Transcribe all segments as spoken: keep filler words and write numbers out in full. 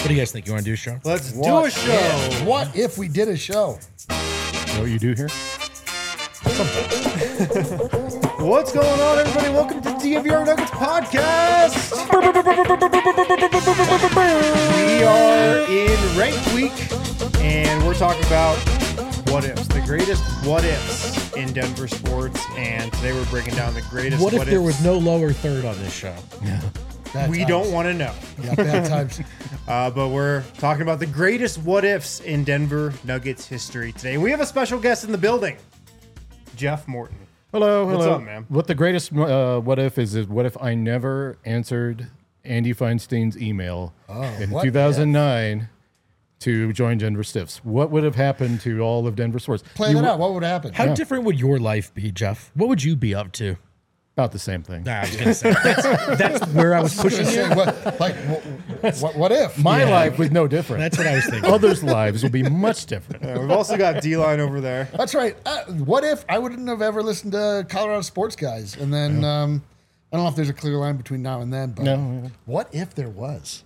do you guys think? You want to do a show? Let's What do a show. If, what if we did a show? You know what you do here? What's going on, everybody? Welcome to D N V R Nuggets Podcast. We are in rank week, and we're talking about what ifs, the greatest what ifs in Denver sports. And today we're breaking down the greatest What if what there ifs was no lower third on this show? Yeah. Bad we times. don't want to know. Yeah, bad times. Uh, but we're talking about the greatest what ifs in Denver Nuggets history today. We have a special guest in the building, Jeff Morton. Hello, hello. What's up, man? What the greatest uh, what if is, is what if I never answered Andy Feinstein's email Oh, in what two thousand nine to join Denver Stiffs? What would have happened to all of Denver sports? Play You that w- out. What would happen? How Yeah. different would your life be, Jeff? What would you be up to? About the same thing. Nah, I was gonna say that's, that's where I was I was pushing gonna you. say, what, like, what, what, what if? My Yeah. life was no different. That's what I was thinking. Others' lives will be much different. Uh, we've also got D-Line over there. That's right. Uh, what if I wouldn't have ever listened to Colorado Sports Guys? And then, um, I don't know if there's a clear line between now and then, but No. what if there was?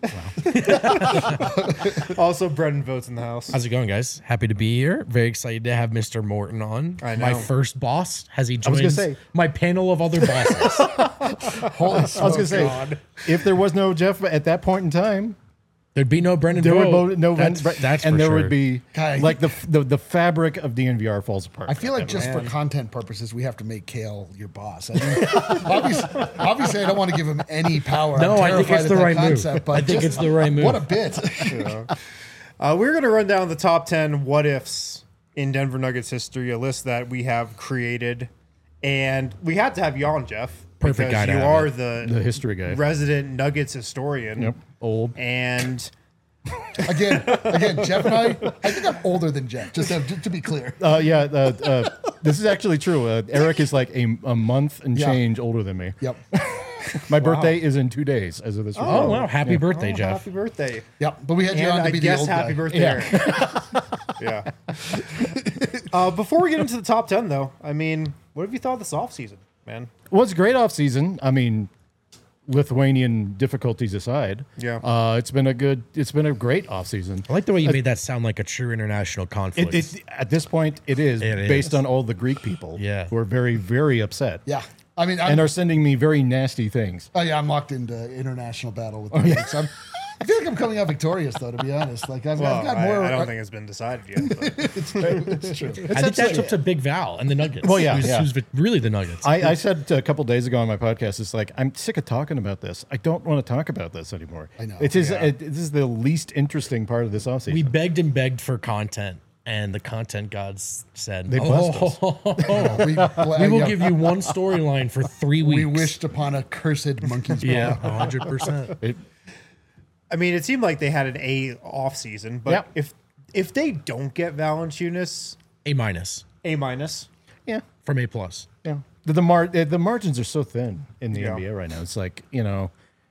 Also, Brendan Votes in the house. How's it going, guys? Happy to be here. Very excited to have Mister Morton on. I My know. first boss. Has he was gonna joined say- my panel of other bosses? Holy I was going to say, God. if there was no Jeff at that point in time, There'd be no Brendan there would Vogt. bo- no that's, right, that's and for there sure. would be Guy, like the, the the fabric of D N V R falls apart. I feel like just man. for content purposes, we have to make Kale your boss. I mean, obviously, obviously, I don't want to give him any power. No, I'm I think terrified it's at the that right move. concept, But I think just- it's the right move. What a bit. Uh, we're going to run down the top ten what ifs in Denver Nuggets history, a list that we have created. And we had to have you on, Jeff. Perfect because guy to you have are it. the, The history guy. resident Nuggets historian. Yep. Old. And Again, again, Jeff and I, I think I'm older than Jeff, just to, just to be clear. Uh, yeah, uh, uh, this is actually true. Uh, Eric is like a, a month and Yeah. change older than me. Yep. My birthday is in two days as of this. Oh, recording. wow. Happy birthday, oh, Jeff. happy birthday. Yep. But we had you And on to I be the guess old happy guy. birthday, Yeah. Eric. Yeah. uh, before we get into the top ten, though, I mean, what have you thought of this offseason, man? Well, it's a great off season. I mean, Lithuanian difficulties aside, Yeah. uh, it's been a good. It's been a great off season. I like the way you made that sound like a true international conflict. It, it, at this point, it is It based is. on all the Greek people Yeah. who are very, very upset Yeah. I mean, I'm, and are sending me very nasty things. oh, yeah, I'm locked into international battle with the Greeks. I'm, I feel like I'm coming out victorious, though, to be honest. Like, I've, Well, I've got I, more. I don't think it's been decided yet. But. it's true. It's true. I think that's up to Big Val and the Nuggets. Well, yeah, who's, yeah. who's really the Nuggets. I, I said a couple days ago on my podcast, it's like I'm sick of talking about this. I don't want to talk about this anymore. I know. It is. Yeah. It, this is the least interesting part of this offseason. we begged and begged for content, and the content gods said, They blessed us. oh, We, we will give you one storyline for three weeks. We wished upon a cursed monkey's paw. Yeah, one hundred percent. It- I mean, it seemed like they had an A off season, but Yep. if if they don't get Valanciunas, A minus A minus. yeah. from A plus. Yeah, the the, mar- the the margins are so thin in the Yeah. N B A right now. It's like, you know,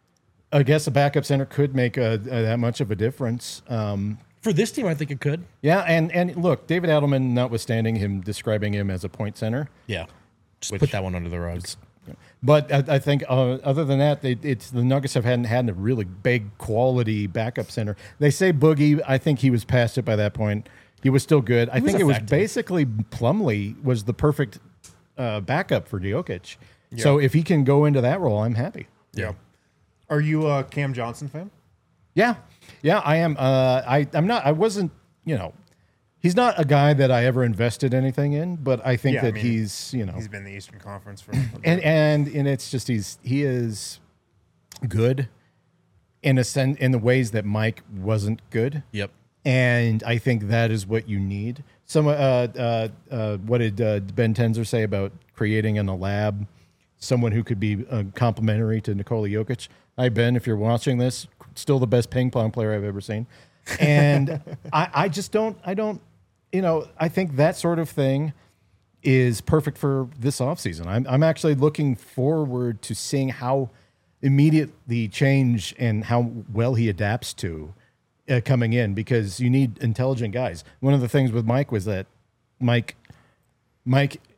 I guess a backup center could make a, a, that much of a difference. Um, For this team, I think it could. yeah, and and look, David Adelman, notwithstanding him describing him as a point center, Yeah, just put that one under the rug. but I, I think uh, other than that, they, it's the Nuggets have hadn't had a really big quality backup center. They say Boogie. I think he was past it by that point. He was still good. I was think it was effective. basically Plumlee was the perfect uh, backup for Jokic. So if he can go into that role, I'm happy. Yeah. Are you a Cam Johnson fan? Yeah, yeah, I am. Uh, I I'm not. I wasn't. You know, he's not a guy that I ever invested anything in, but I think Yeah, I that mean, he's. You know, He's been in the Eastern Conference for. and and and it's just he's he is good in a sense in the ways that Mike wasn't good. Yep. And I think that is what you need. Some, uh, uh, uh, what did uh, Ben Tenzer say about creating in a lab someone who could be uh, complementary to Nikola Jokic? Hi, Ben, if you're watching this, still the best ping pong player I've ever seen. And I, I just don't, I don't, you know, I think that sort of thing is perfect for this offseason. I'm, I'm actually looking forward to seeing how immediate the change and how well he adapts to Uh, coming in, because you need intelligent guys. One of the things with Mike was that Mike, Mike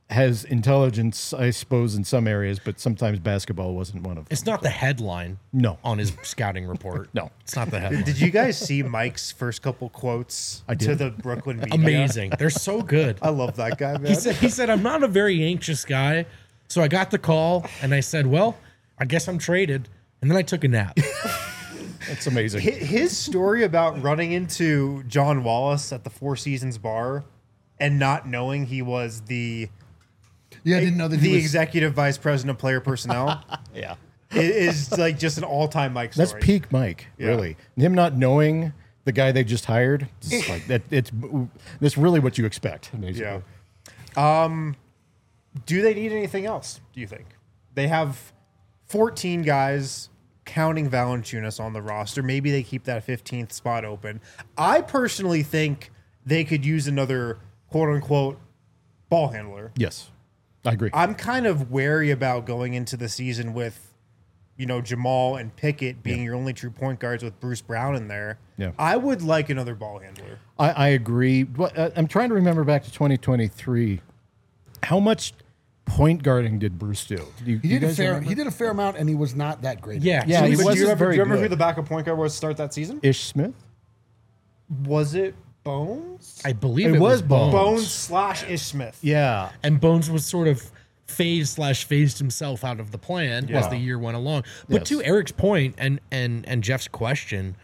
has intelligence, I suppose, in some areas, but sometimes basketball wasn't one of them. It's not the headline No. on his scouting report. No. It's not the headline. Did you guys see Mike's first couple quotes I to did. the Brooklyn media? Amazing. They're so good. I love that guy, man. He said, he said, I'm not a very anxious guy. So I got the call and I said, well, I guess I'm traded. And then I took a nap. That's amazing. Hi- His story about running into John Wallace at the Four Seasons bar and not knowing he was the Yeah, I didn't know that the he was. executive vice president of player personnel Yeah. i- is like just an all-time Mike story. That's peak Mike, Yeah. really. Him not knowing the guy they just hired, it's like that. It's that's really what you expect. Basically. Yeah. Um, do they need anything else, do you think? They have fourteen guys, counting Valanciunas, on the roster. Maybe they keep that fifteenth spot open. I personally think they could use another quote-unquote ball handler. Yes, I agree. I'm kind of wary about going into the season with, you know, Jamal and Pickett being your only true point guards with Bruce Brown in there. Yeah. I would like another ball handler. I, I agree. But, uh, I'm trying to remember back to twenty twenty-three. How much point guarding did Bruce do? do you, He you did a guys fair. remember? He did a fair amount, and he was not that great. Yeah. Yeah, so he he was- wasn't do you, remember, very do you remember good. who the backup point guard was to start that season? Ish Smith. Was it Bones? I believe It it, was was Bones. Bones slash Ish Smith. Yeah. And Bones was sort of phased slash phased himself out of the plan as Yeah. the year went along. But Yes. to Eric's point and and and Jeff's question,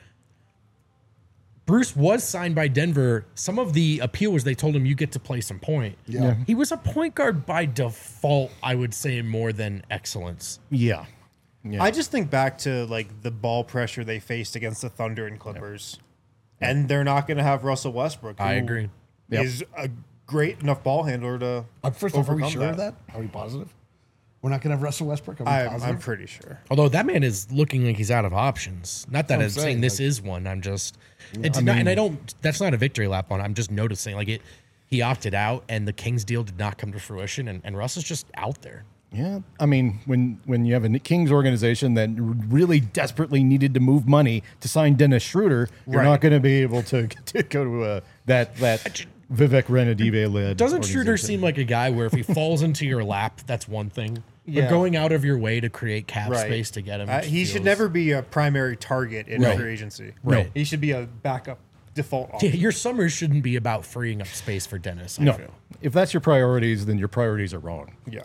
Bruce was signed by Denver. Some of the appeal was they told him you get to play some point. Yeah. Yeah. He was a point guard by default, I would say, more than excellence. Yeah. Yeah. I just think back to like the ball pressure they faced against the Thunder and Clippers, and they're not going to have Russell Westbrook. I who agree. Yep. Is a great enough ball handler to. Uh, first off, are we overcome sure of that? Are we positive? We're not going to have Russell Westbrook. Are we I'm, positive? I'm pretty sure. Although that man is looking like he's out of options. Not that I'm I'm saying, saying, this like- is one. I'm just, it's not, and I don't. That's not a victory lap on. I'm just noticing like it. He opted out, and the Kings deal did not come to fruition, and, and Russ is just out there. Yeah, I mean, when when you have a Kings organization that really desperately needed to move money to sign Dennis Schroeder, you're Right. not going to be able to, to go to uh, that that Vivek Ranadive led. Doesn't Schroeder organization. seem like a guy where if he falls into your lap, that's one thing. Yeah. But going out of your way to create cap Right. space to get him, Uh, just he should feels- never be a primary target in Right. free agency. Right. He should be a backup default Yeah, option. your summers shouldn't be about freeing up space for Dennis. I No, feel. if that's your priorities, then your priorities are wrong. Yeah.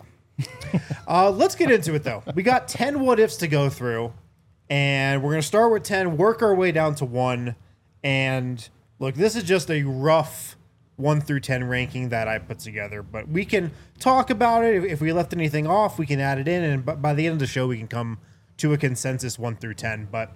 uh, let's get into it, though. We got ten what ifs to go through, and we're going to start with ten, work our way down to one. And look, this is just a rough one through ten ranking that I put together, but we can talk about it. If, if we left anything off, we can add it in, and b- by the end of the show, we can come to a consensus one through ten. But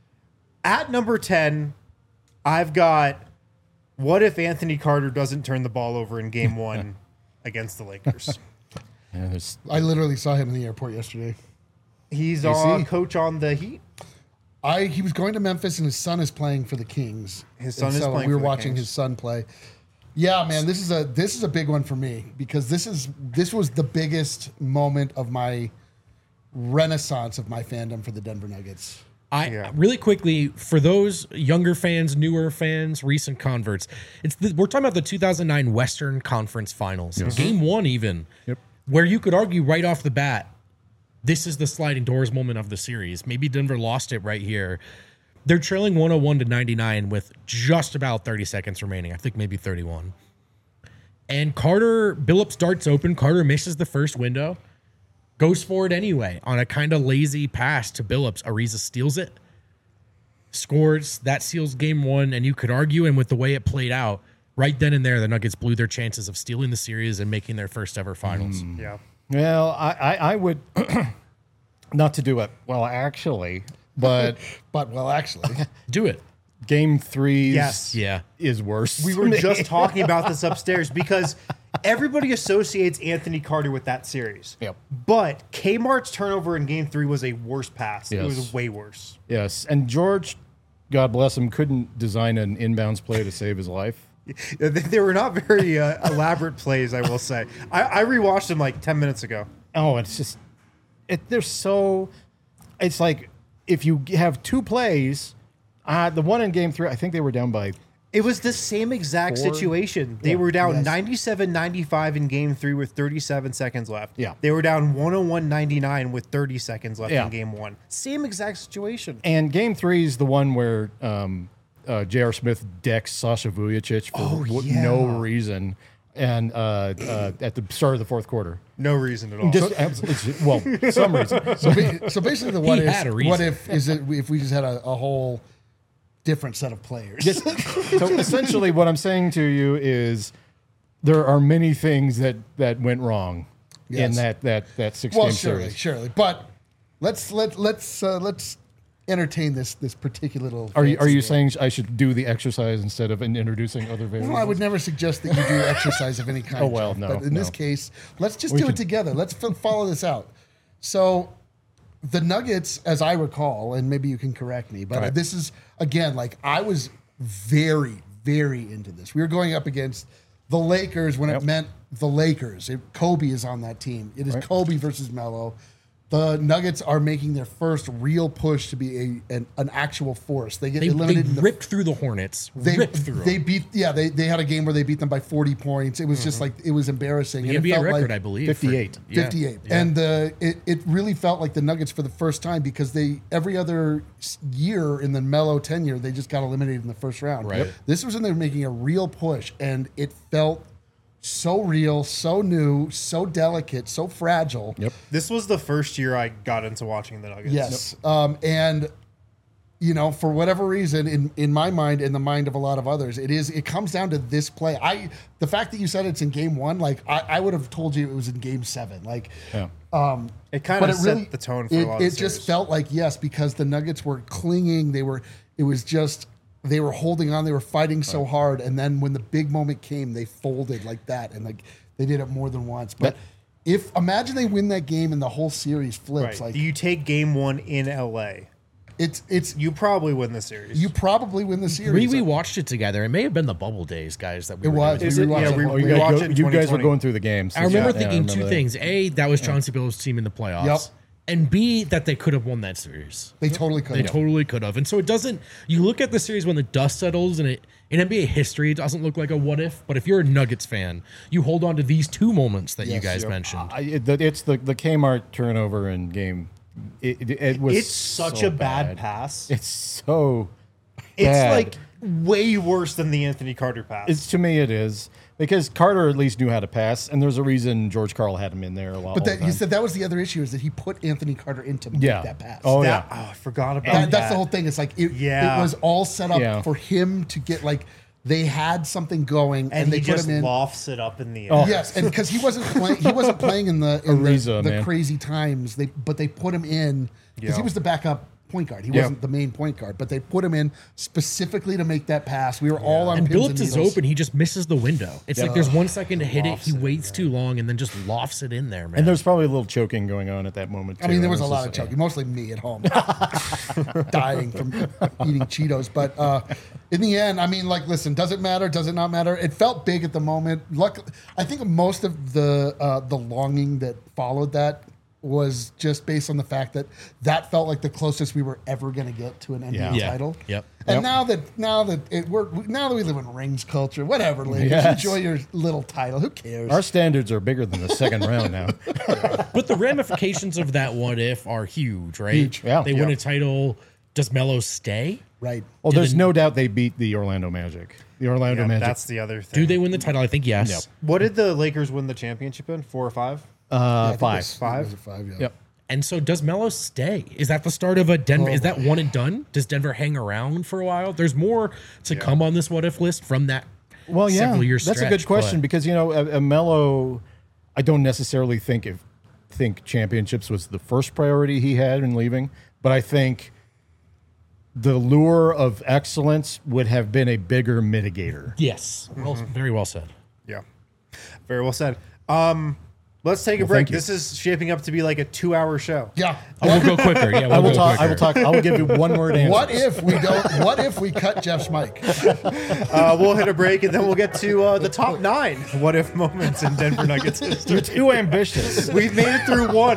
at number ten, I've got what if Anthony Carter doesn't turn the ball over in game one against the Lakers? Yeah, there's, I literally saw him in the airport yesterday. He's You a see? coach on the Heat. I he was going to Memphis, and his son is playing for the Kings. His son And is so playing We were for the watching Kings. his son play. Yeah, man, this is a this is a big one for me because this is this was the biggest moment of my renaissance of my fandom for the Denver Nuggets. I Yeah. really quickly for those younger fans, newer fans, recent converts. It's the, we're talking about the two thousand nine Western Conference Finals, Game One, even, Yep. where you could argue right off the bat, this is the sliding doors moment of the series. Maybe Denver lost it right here. They're trailing one oh one to ninety-nine with just about thirty seconds remaining. I think maybe thirty-one. And Carter, Billups darts open. Carter misses the first window. Goes for it anyway on a kind of lazy pass to Billups. Ariza steals it, scores. That seals game one. And you could argue, and with the way it played out, right then and there, the Nuggets blew their chances of stealing the series and making their first ever finals. Yeah. well, I, I, I would not to do it. Well, actually, but But well, actually, Do it. game three Yes. Yeah. is worse. We were just talking about this upstairs because everybody associates Anthony Carter with that series. Yep. But Kmart's turnover in game three was a worse pass. It Yes. was way worse. Yes, and George, God bless him, couldn't design an inbounds play to save his life. They, they were not very uh, elaborate plays, I will say. I, I rewatched them like ten minutes ago. Oh, it's just it. They're so. It's like if you have two plays, uh, the one in game three, I think they were down by It was the same exact Four? situation. They Yeah. were down Yes. ninety-seven ninety-five in game three with thirty-seven seconds left. Yeah. They were down one oh one ninety-nine with thirty seconds left Yeah. in game one. Same exact situation. And game three is the one where um, uh, J R. Smith decks Sasha Vujacic for Oh, w- yeah. no reason, and uh, uh, at the start of the fourth quarter. No reason at all. Just it's, well, some reason. So, ba- so basically, the what had a if? reason. What if is it if we just had a, a whole different set of players? Just- so essentially, what I'm saying to you is there are many things that that went wrong in Yes. that that that six Well, game surely, series. surely, but let's let let's uh, let's entertain this this particular little. Are you are fancy you game. saying I should do the exercise instead of in- introducing other variables? Well, I would never suggest that you do exercise of any kind. Oh, well, Jeff, no, But in this no. case, let's just We do can- it together. Let's f- follow this out. So, the Nuggets, as I recall, and maybe you can correct me, but Right. this is again like I was very, very into this. We were going up against the Lakers when Yep. it meant the Lakers. It, Kobe is on that team. It is Right. Kobe versus Melo. The Nuggets are making their first real push to be a an, an actual force. They get They, they eliminated in the ripped through the Hornets. they ripped through they them. beat yeah they, they had a game where they beat them by forty points. It was just like it was embarrassing. The and N B it A felt record, like I believe. for- fifty-eight. yeah. fifty-eight, Yeah. and uh, it it really felt like the Nuggets for the first time because they every other s- year in the Melo tenure they just got eliminated in the first round. Right. Yep. This was when they were making a real push, and it felt so real, so new, so delicate, so fragile. Yep. This was the first year I got into watching the Nuggets. Yes. Um, and you know, for whatever reason, in, in my mind, in the mind of a lot of others, it is it comes down to this play. I the fact that you said it's in game one, like I, I would have told you it was in game seven. Like Yeah. It kind but of it set really the tone for it, a lot it of the just series. felt like yes, because the Nuggets were clinging, they were it was just they were holding on, they were fighting so hard, and then when the big moment came, they folded like that, and like they did it more than once. But if imagine they win that game and the whole series flips, Right. like Do you take game one in L A? it's it's You probably win the series. you probably win the series. We, we watched it together. It may have been the bubble days, guys. That we It were was. doing. Is We it- rewatched yeah, it. we- Oh, you, we guys, watched go- it in you guys were twenty twenty. going through the games. I remember Yeah, thinking I remember two that. things: A, that was Chauncey Billups' team in the playoffs, Yep. and B, that they could have won that series. They totally could. They have. totally could have. And so it doesn't. You look at the series when the dust settles, and it in N B A history, it doesn't look like a what if. But if you're a Nuggets fan, you hold on to these two moments that you Yes, guys yep. mentioned. I, it, the- it's the the Kmart turnover in game. It, it, it was It's such so a bad, pass. It's so. It's bad. like way worse than the Anthony Carter pass. It's to me it is because Carter at least knew how to pass, and there's a reason George Karl had him in there a lot. But that, he said that was the other issue is that he put Anthony Carter in to make Yeah. that pass. Oh, that, yeah. oh, I forgot about That- that. that's the whole thing. It's like it, Yeah. it was all set up Yeah. for him to get like they had something going and, And they he put just him in. lofts it up in the air. Oh. Yes, and because he wasn't playing, he wasn't playing in the in Ariza, the, the man. crazy times. They but they put him in because he Yeah. was the backup point guard. He Yeah. wasn't the main point guard, but they put him in specifically to make that pass. We were all on and pins Billups and is needles. open. He just misses the window. It's like there's one second to hit it. He waits too long and then just lofts it in there, man. and there's probably a little choking going on at that moment. I too. mean, there was a It's lot of just, choking, mostly me at home, dying from eating Cheetos. But uh, in the end, I mean, like, listen, does it matter? Does it not matter? It felt big at the moment. Luck, I think most of the uh, the longing that followed that was just based on the fact that that felt like the closest we were ever going to get to an N B A Yeah. Yeah. title. Yep. And Yep. now that now that it we're now that we live in rings culture, whatever, ladies, Yes. enjoy your little title. Who cares? Our standards are bigger than the second round now. But the ramifications of that what if are huge, right? Huge. Yeah. They win Yeah. a title. Does Melo stay? right. Well, there's Didn't- no doubt they beat the Orlando Magic. The Orlando Yeah, Magic. that's the other thing. Do they win the title? I think yes. Yep. What did the Lakers win the championship in? Four or five? Yeah, I uh, think it five. was- Five? it was a five. Yeah. Yep. And so does Melo stay? Is that the start of a Denver? Oh, is that one and done? Does Denver hang around for a while? There's more to come on this what if list from that Well, yeah, several year that's a stretch, good question but- because you know, a, a Melo, I don't necessarily think if think championships was the first priority he had in leaving, but I think the lure of excellence would have been a bigger mitigator. Yes. Well, very well said. Yeah. Very well said. Um, let's take a Well, break. thank you. This is shaping up to be like a two hour show. Yeah. Oh, we'll go quicker. Yeah, we'll I will go talk. I quicker. will talk. I will give you one word answer. What if we don't? What if we cut Jeff's mic? Uh, we'll hit a break and then we'll get to uh, the top nine what if moments in Denver Nuggets history. You're too ambitious. We've made it through one.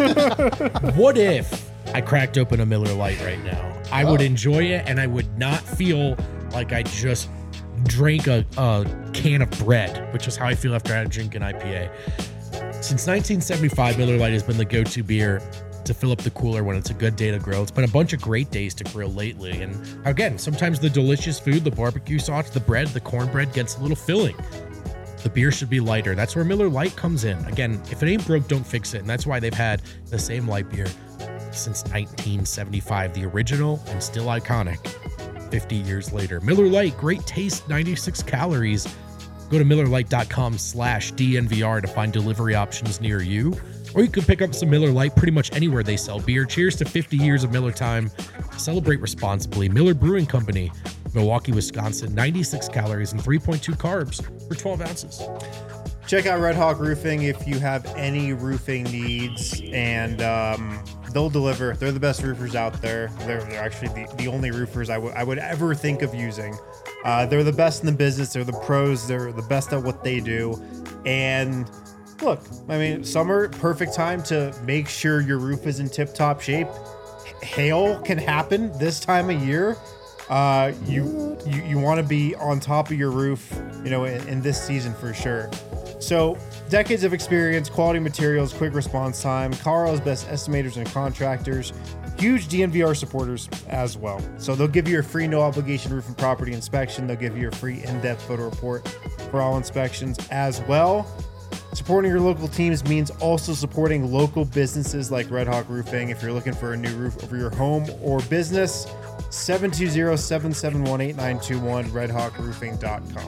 What if I cracked open a Miller Lite right now? I would enjoy it, and I would not feel like I just drank a, a can of bread, which is how I feel after I had a drink an I P A. Since nineteen seventy-five, Miller Lite has been the go-to beer to fill up the cooler when it's a good day to grill. It's been a bunch of great days to grill lately. And again, sometimes the delicious food, the barbecue sauce, the bread, the cornbread gets a little filling. The beer should be lighter. That's where Miller Lite comes in. Again, if it ain't broke, don't fix it. And that's why they've had the same light beer since nineteen seventy-five, the original and still iconic fifty years later. Miller Lite, great taste, ninety-six calories. Go to MillerLite.com slash DNVR to find delivery options near you. Or you can pick up some Miller Lite pretty much anywhere they sell beer. Cheers to fifty years of Miller time. Celebrate responsibly. Miller Brewing Company, Milwaukee, Wisconsin. ninety-six calories and three point two carbs for twelve ounces. Check out Red Hawk Roofing if you have any roofing needs, and um, they'll deliver. They're the best roofers out there. They're, they're actually the, the only roofers I would I would ever think of using. Uh, they're the best in the business. They're the pros. They're the best at what they do. And look, I mean, summer, perfect time to make sure your roof is in tip-top shape. Hail can happen this time of year. Uh, you you, you want to be on top of your roof, you know, in, in this season for sure. So, decades of experience, quality materials, quick response time, Colorado's best estimators and contractors, huge D N V R supporters as well. So they'll give you a free no obligation roof and property inspection. They'll give you a free in-depth photo report for all inspections as well. Supporting your local teams means also supporting local businesses like Red Hawk Roofing. If you're looking for a new roof over your home or business, seven two zero, seven seven one, eight nine two one, red hawk roofing dot com.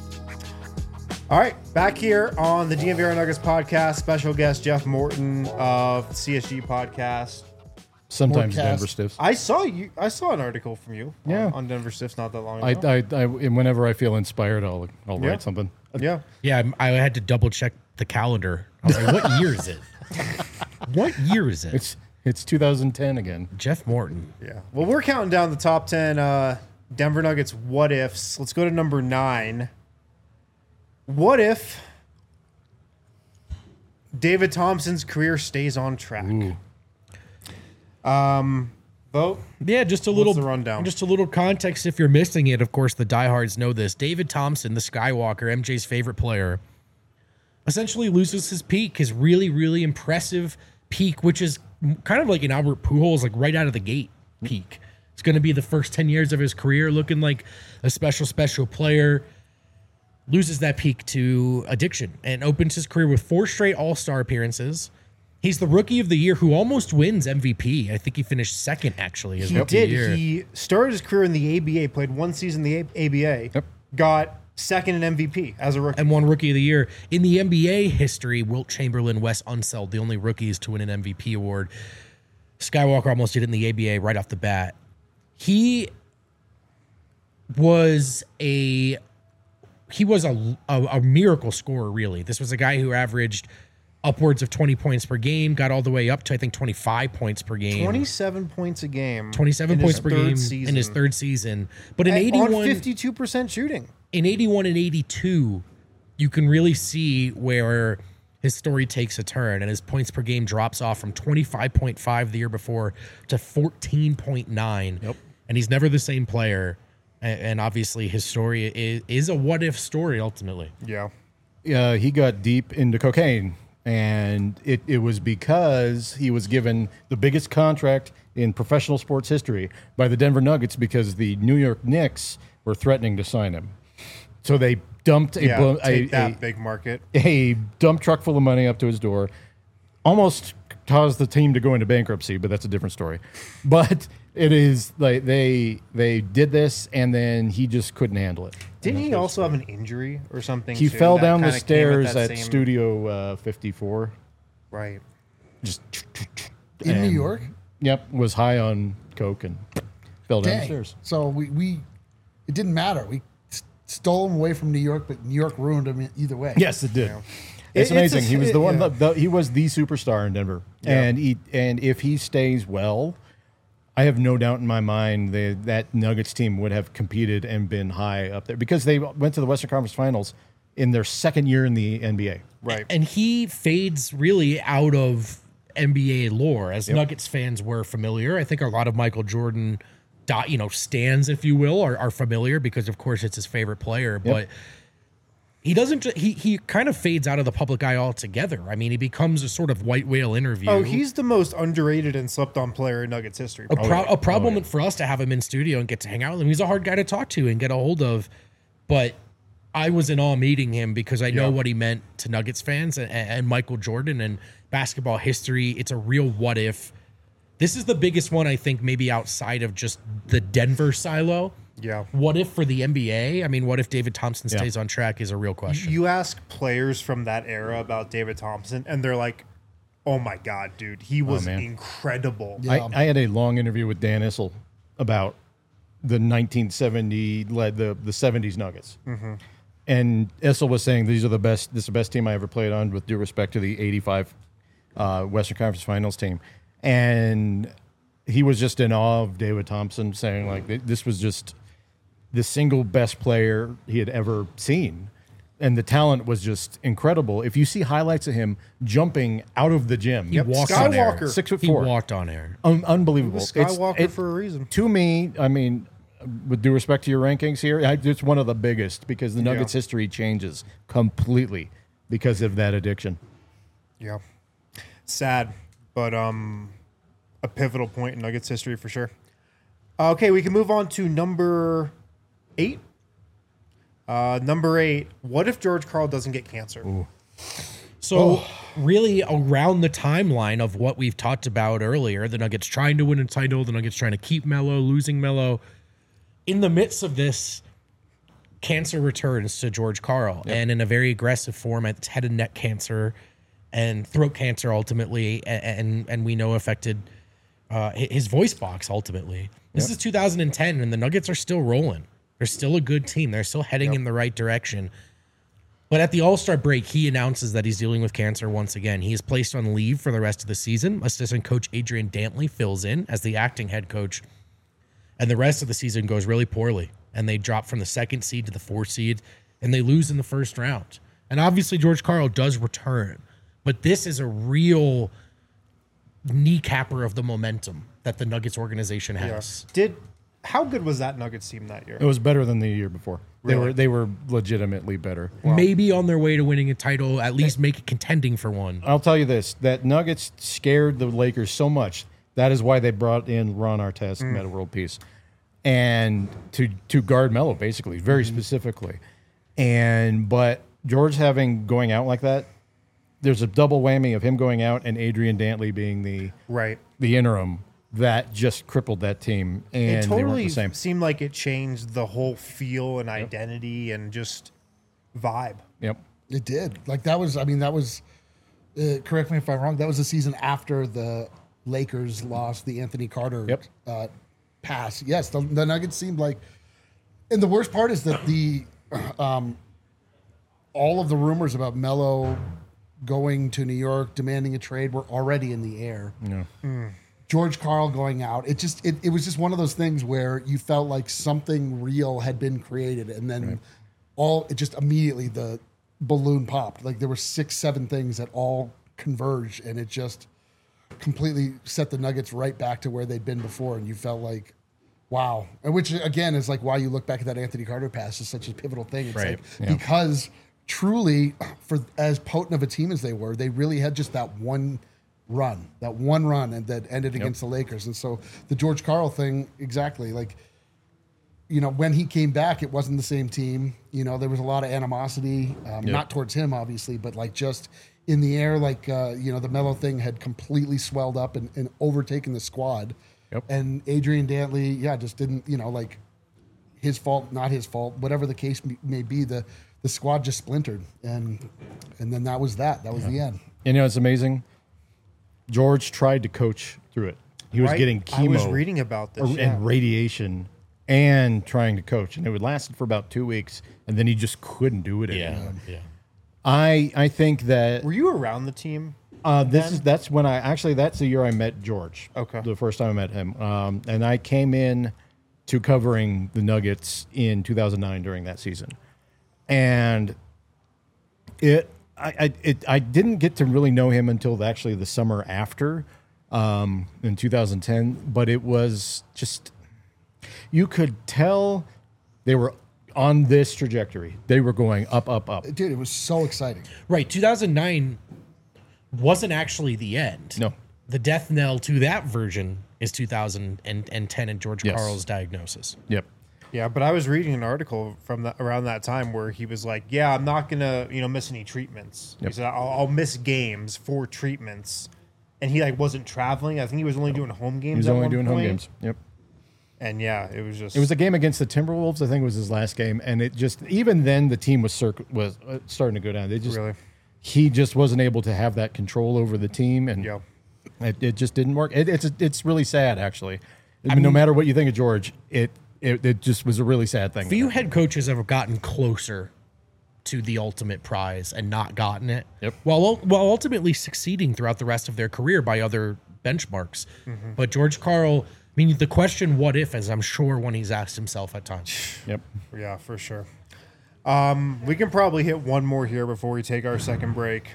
All right, back here on the D N V R Nuggets podcast, special guest Jeff Morton of C S G podcast. Sometimes Morecast. Denver Stiffs. I saw you. I saw an article from you Yeah. on, on Denver Stiffs not that long I, ago. I, I, and whenever I feel inspired, I'll, I'll Yeah. write something. yeah. Yeah, I had to double check the calendar. I was like, what year is it? What year is it? It's it's two thousand ten again. Jeff Morton. Yeah. Well, we're counting down the top ten uh, Denver Nuggets what ifs. Let's go to number nine. What if David Thompson's career stays on track? Ooh. Um, vote. Yeah, just a little the rundown? Just a little context if you're missing it. Of course, the diehards know this. David Thompson, the Skywalker, M J's favorite player, essentially loses his peak, his really, really impressive peak, which is kind of like an Albert Pujols, like right out of the gate peak. It's going to be the first ten years of his career looking like a special, special player. Loses that peak to addiction and opens his career with four straight All-Star appearances. He's the rookie of the year who almost wins M V P. I think he finished second, actually. His He rookie did. year. He started his career in the A B A, played one season in the A B A, Yep. got second in M V P as a rookie. and won Rookie of the Year. In the N B A history, Wilt Chamberlain, Wes Unseld, the only rookies to win an M V P award. Skywalker almost did it in the A B A right off the bat. He was a he was a, a, a miracle scorer, really. This was a guy who averaged upwards of twenty points per game, got all the way up to, I think, twenty-five points per game. twenty-seven points a game. twenty-seven in points his per third game season. in his third season. But in At- eighty-one, on fifty-two percent shooting. in eighty-one and eighty-two, you can really see where his story takes a turn and his points per game drops off from twenty-five point five the year before to fourteen point nine. Yep. And he's never the same player. And, and obviously his story is, is a what if story ultimately. Yeah. Uh, he got deep into cocaine, and it, it was because he was given the biggest contract in professional sports history by the Denver Nuggets because the New York Knicks were threatening to sign him. So they dumped a, Yeah. blo- Take a, that a, big market. a dump truck full of money up to his door, almost caused the team to go into bankruptcy, but that's a different story. But it is like they they did this, and then he just couldn't handle it. Didn't he also have an injury or something? He too, fell that down the kinda came with stairs that at same- Studio uh, fifty-four. Right. Just in New and- York. Yep, was high on coke and fell down the Dang. stairs. So we, we it didn't matter. We s- stole him away from New York, but New York ruined him either way. Yes, it did. It- It's it's amazing. a- he was the it- one. yeah. The, he was the superstar in Denver, Yeah. and he and if he stays well, I have no doubt in my mind that that Nuggets team would have competed and been high up there because they went to the Western Conference Finals in their second year in the N B A. Right. And he fades really out of N B A lore, as Nuggets fans were familiar. I think a lot of Michael Jordan dot, you know, stands, if you will, are, are familiar because, of course, it's his favorite player. But he doesn't. Ju- he he kind of fades out of the public eye altogether. I mean, he becomes a sort of white whale interview. Oh, he's the most underrated and slept on player in Nuggets history. a, probably. pro- a problem for us to have him in studio and get to hang out with him. He's a hard guy to talk to and get a hold of. But I was in awe meeting him because I know Yeah. what he meant to Nuggets fans and, and Michael Jordan and basketball history. It's a real what if. This is the biggest one, I think, maybe outside of just the Denver silo. Yeah. What if for the N B A? I mean, what if David Thompson Yeah. stays on track is a real question. You ask players from that era about David Thompson, and they're like, "Oh my god, dude, he was man. incredible." Yeah. I, I had a long interview with Dan Issel about the nineteen seventy led the the seventies Nuggets, and Issel was saying these are the best. This is the best team I ever played on, with due respect to the eighty-five uh, Western Conference Finals team, and he was just in awe of David Thompson, saying like th- this was just the single best player he had ever seen. And the talent was just incredible. If you see highlights of him jumping out of the gym, He walked on air. Skywalker. six foot He four, walked on air. Un- unbelievable. He was It's- Skywalker it- for a reason. To me, I mean, with due respect to your rankings here, I, it's one of the biggest because the Nuggets' Yeah. history changes completely because of that addiction. Yeah, sad, but um, a pivotal point in Nuggets history for sure. Okay, we can move on to number eight. Uh, number eight. What if George Karl doesn't get cancer? So really around the timeline of what we've talked about earlier, the Nuggets trying to win a title, the Nuggets trying to keep Melo, losing Melo. In the midst of this, cancer returns to George Karl, and in a very aggressive form. It's head and neck cancer and throat cancer ultimately, and and, and we know affected uh, hi- his voice box ultimately. This is two thousand ten, and the Nuggets are still rolling. They're still a good team. They're still heading in the right direction. But at the All-Star break, he announces that he's dealing with cancer once again. He is placed on leave for the rest of the season. Assistant coach Adrian Dantley fills in as the acting head coach. And the rest of the season goes really poorly. And they drop from the second seed to the fourth seed, and they lose in the first round. And obviously, George Karl does return. But this is a real kneecapper of the momentum that the Nuggets organization has. Did how good was that Nuggets team that year? It was better than the year before. They Really? were they were legitimately better. Maybe on their way to winning a title, at least make it contending for one. I'll tell you this: that Nuggets scared the Lakers so much. That is why they brought in Ron Artest, Meta World Peace, and to to guard Melo, basically, very specifically. And but George having going out like that, there's a double whammy of him going out and Adrian Dantley being the Right. the interim that just crippled that team, and It they weren't totally the same. seemed like it changed the whole feel and identity and just vibe. Yep. It did. Like that was. I mean, that was. Uh, correct me if I'm wrong. That was the season after the Lakers lost the Anthony Carter Yep. uh, pass. Yes, the, the Nuggets seemed like. And the worst part is that the, um, all of the rumors about Melo going to New York, demanding a trade, were already in the air. Yeah. George Karl going out. It just it, it was just one of those things where you felt like something real had been created, and then all it just immediately the balloon popped. Like there were six, seven things that all converged, and it just completely set the Nuggets right back to where they'd been before, and you felt like, wow. And which again is like why you look back at that Anthony Carter pass is such a pivotal thing. It's Right. like Yeah. because truly, for as potent of a team as they were, they really had just that one run, that one run, and that ended against the Lakers. And so the George Karl thing, exactly, like, you know, when he came back, it wasn't the same team. You know, there was a lot of animosity, um, not towards him, obviously, but like just in the air, like, uh, you know, the Melo thing had completely swelled up and, and overtaken the squad. Yep. And Adrian Dantley, yeah, just didn't, you know, like his fault, not his fault, whatever the case may- may be, the, the squad just splintered. And, and then that was that. That was the end. You know, it's amazing. George tried to coach through it. He was Right? getting chemo I was reading about this. or- yeah. and radiation and trying to coach, and it would last for about two weeks, and then he just couldn't do it anymore. Yeah. I I think that Were you around the team? uh, this is that's when I actually that's the year I met George. Okay. The first time I met him, um, and I came in to covering the Nuggets in two thousand nine during that season, and it I I, it, I didn't get to really know him until actually the summer after, um, in two thousand ten. But it was just you could tell they were on this trajectory. They were going up, up, up. Dude, it was so exciting. Right. two thousand nine wasn't actually the end. No. The death knell to that version is two thousand ten and George Yes. Karl's diagnosis. Yep. Yeah, but I was reading an article from the, around that time where he was like, "Yeah, I'm not gonna, you know, miss any treatments." Yep. He said, I'll, "I'll miss games for treatments," and he like wasn't traveling. I think he was only doing home games. He was at only one doing home point. games. Yep. And yeah, it was just It was a game against the Timberwolves. I think it was his last game, and it just even then the team was circ- was uh, starting to go down. They just Really? he just wasn't able to have that control over the team, and Yeah. it, it just didn't work. It, it's it's really sad, actually. I mean, no matter what you think of George, it, it it just was a really sad thing. Few head coaches have gotten closer to the ultimate prize and not gotten it. Yep. While while ultimately succeeding throughout the rest of their career by other benchmarks. Mm-hmm. But George Karl, I mean, the question "what if" is I'm sure one he's asked himself at times. Yep. Yeah, for sure. Um, we can probably hit one more here before we take our second break.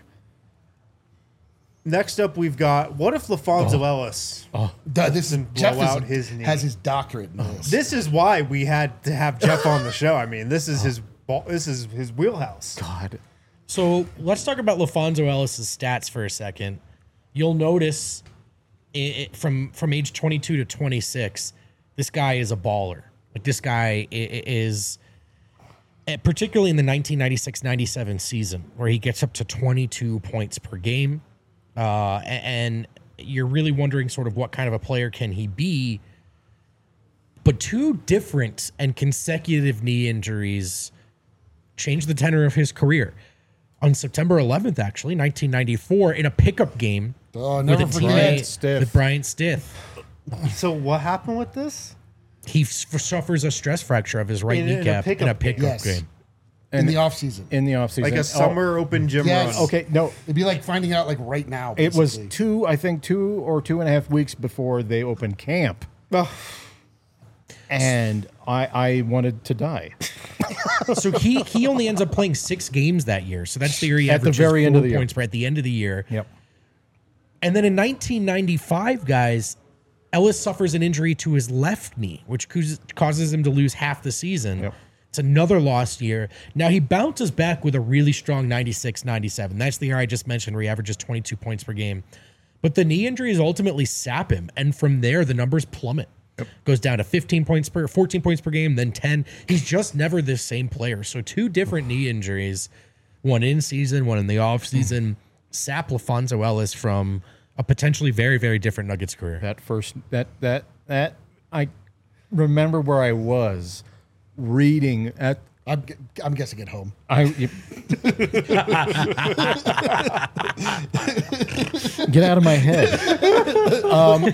Next up, we've got what if LaFonso Ellis? Duh, this is Doesn't blow Jeff is- out his knee. has his doctorate in this. This is why we had to have Jeff on the show. I mean, this is his ball, this is his wheelhouse. God. So let's talk about LaFonso Ellis's stats for a second. You'll notice i i from from age twenty-two to twenty-six, this guy is a baller. Like this guy i- i- is, eh, particularly in the nineteen ninety-six ninety-seven season, where he gets up to twenty-two points per game, uh, a- and you're really wondering sort of what kind of a player can he be. But two different and consecutive knee injuries changed the tenor of his career. On September eleventh, actually, nineteen ninety-four, in a pickup game Oh, never with, a forget. teammate- Bryant Stith. with Bryant Stith. So what happened with this? He f- suffers a stress fracture of his right In- in a kneecap in a pickup pickup game. Yes. game. in the off season. In the offseason. Like Oh, a summer open gym Yes. run. Okay, no. It'd be like finding out like right now. It was basically. two, I think, two or two and a half weeks before they opened camp. Ugh. And I, I wanted to die. So he he only ends up playing six games that year. So that's the year he At the averages very end of four the year. points per at the end of the year. Yep. And then in nineteen ninety-five, guys, Ellis suffers an injury to his left knee, which causes- causes him to lose half the season. Yep. It's another lost year. Now he bounces back with a really strong ninety-six ninety-seven. That's the year I just mentioned where he averages twenty-two points per game. But the knee injuries ultimately sap him. And from there, the numbers plummet. Goes down to fifteen points per, fourteen points per game, then ten. He's just never the same player. So two different knee injuries, one in season, one in the off season, sap LaFonso Ellis from a potentially very, very different Nuggets career. That first, that, that, that, I remember where I was reading at, I'm, gu- I'm guessing at home. I, get out of my head. Um,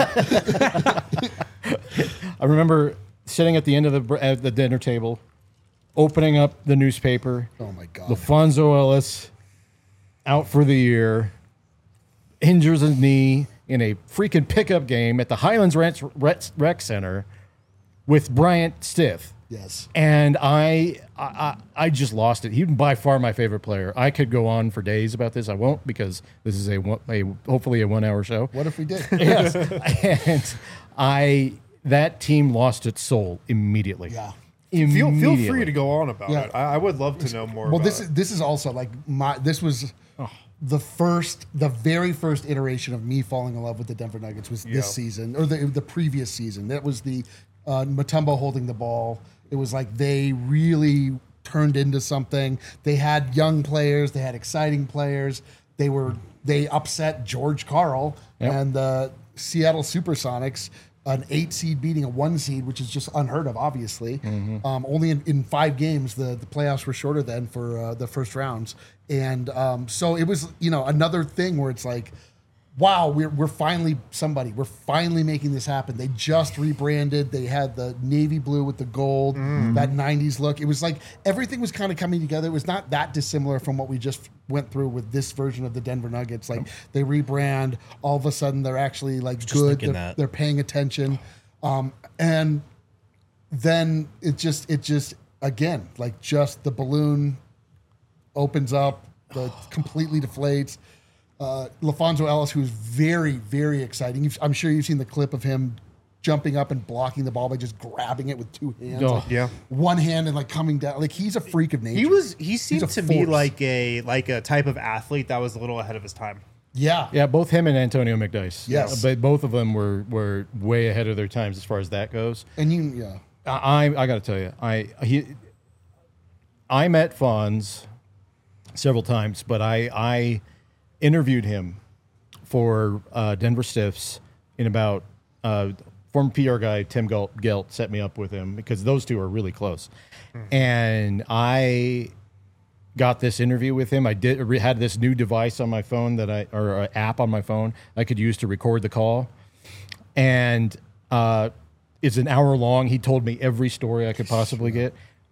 I remember sitting at the end of the br- at the dinner table, opening up the newspaper. Oh my god. LaFonso Ellis out for the year, injures his knee in a freaking pickup game at the Highlands Rec, Rec, Rec Center with Bryant Stith. Yes. And I, I, I I just lost it. He's by far my favorite player. I could go on for days about this. I won't because this is a, one- a hopefully a one hour show. What if we did? Yes, and I that team lost its soul immediately. Yeah. Feel feel Immediately. free to go on about Yeah. it. I, I would love to know more. Well, about this it. is this is also like my this was the first, the very first iteration of me falling in love with the Denver Nuggets was Yeah. this season or the the previous season. That was the uh, Mutombo holding the ball. It was like they really turned into something. They had young players. They had exciting players. They were they upset George Karl Yep. and the Seattle Supersonics. An eight seed beating a one seed, which is just unheard of, obviously. Um, only in, in five games, the, the playoffs were shorter than for uh, the first rounds. And um, so it was, you know, another thing where it's like, wow, we're, we're finally somebody. We're finally making this happen. They just rebranded. They had the navy blue with the gold, that nineties look. It was like everything was kind of coming together. It was not that dissimilar from what we just went through with this version of the Denver Nuggets. Like they rebrand, all of a sudden they're actually like Just good. thinking They're, that. they're paying attention. Um, and then it just, it just, again, like just the balloon opens up, the completely deflates. Uh, LaFonso Ellis, who's very, very exciting. You've, I'm sure you've seen the clip of him jumping up and blocking the ball by just grabbing it with two hands. Oh. Like, Yeah. one hand and like coming down. Like he's a freak of nature. He was. He He's seemed a to me force. like a like a type of athlete that was a little ahead of his time. Yeah. Yeah, both him and Antonio McDyess. Yes. but both of them were were way ahead of their times as far as that goes. And you, yeah. I I, I got to tell you, I he I met Fonz several times, but I I interviewed him for uh, Denver Stiffs in about uh, former P R guy Tim Gelt, Gelt set me up with him because those two are really close, and I got this interview with him. I did had this new device on my phone that I or an app on my phone I could use to record the call, and uh, it's an hour long. He told me every story I could possibly get.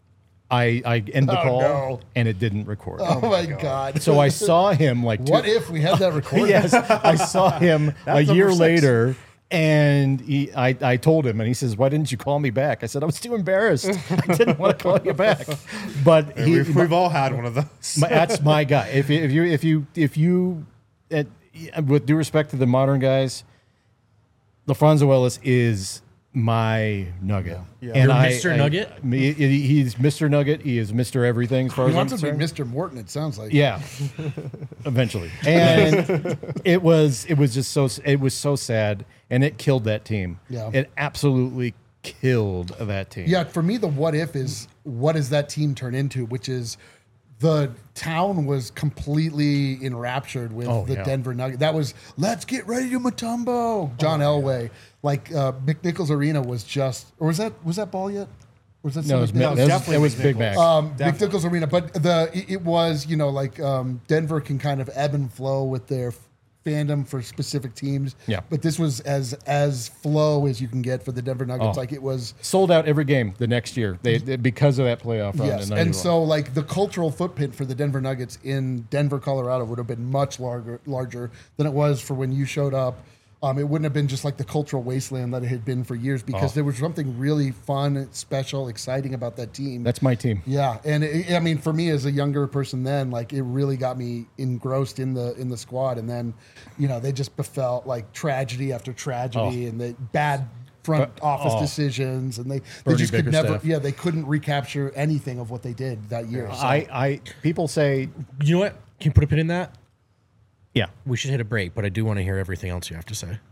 I I end the Oh, call no. and it didn't record. Oh, my God. So I saw him like two, What if we had that recorded? yes, I saw him a That's year number six. later, and he, I, I told him, and he says, "Why didn't you call me back?" I said, "I was too embarrassed. I didn't want to call you back." But he, We've, we've all had one of those. my, that's my guy. If you, if you, if you, if you, at, with due respect to the modern guys, LaFranzo Ellis is my nugget. Yeah. You're Mister Nugget? me- he- he's Mister Nugget. He is Mister Everything as far He as I'm wants to be concerned. Mister Morton, it sounds like. Yeah, eventually. And it was it was just so it was so sad, and it killed that team. Yeah. It absolutely killed that team. Yeah, for me, the what if is what does that team turn into, which is the town was completely enraptured with Oh, the yeah. Denver Nuggets. That was, let's get ready to Mutombo. John Elway. Like uh, McNichols Arena was just, or was that was that ball yet? Or was that No, it was, something- that No, was, it's that was, definitely Big McNichols. Mac. Um, Definitely. McNichols Arena, but the it, it was, you know, like um, Denver can kind of ebb and flow with their f- fandom for specific teams. Yeah. But this was as as flow as you can get for the Denver Nuggets. Oh. Like it was. Sold out every game the next year. They, they- because of that playoff run. Yes, in and ninety-one. so like the cultural footprint for the Denver Nuggets in Denver, Colorado, would have been much larger, larger than it was for when you showed up. Um, it wouldn't have been just like the cultural wasteland that it had been for years because Oh. there was something really fun, special, exciting about that team. that's my team. Yeah, and it, I mean, for me as a younger person, then like it really got me engrossed in the in the squad, and then, you know, they just befell like tragedy after tragedy, Oh. and the bad front But- office oh. decisions, and they they Bernie just could never, Bickerstaff. yeah, they couldn't recapture anything of what they did that year. So. I, I people say, You know what? Can you put a pin in that? yeah, We should hit a break, but I do want to hear everything else you have to say.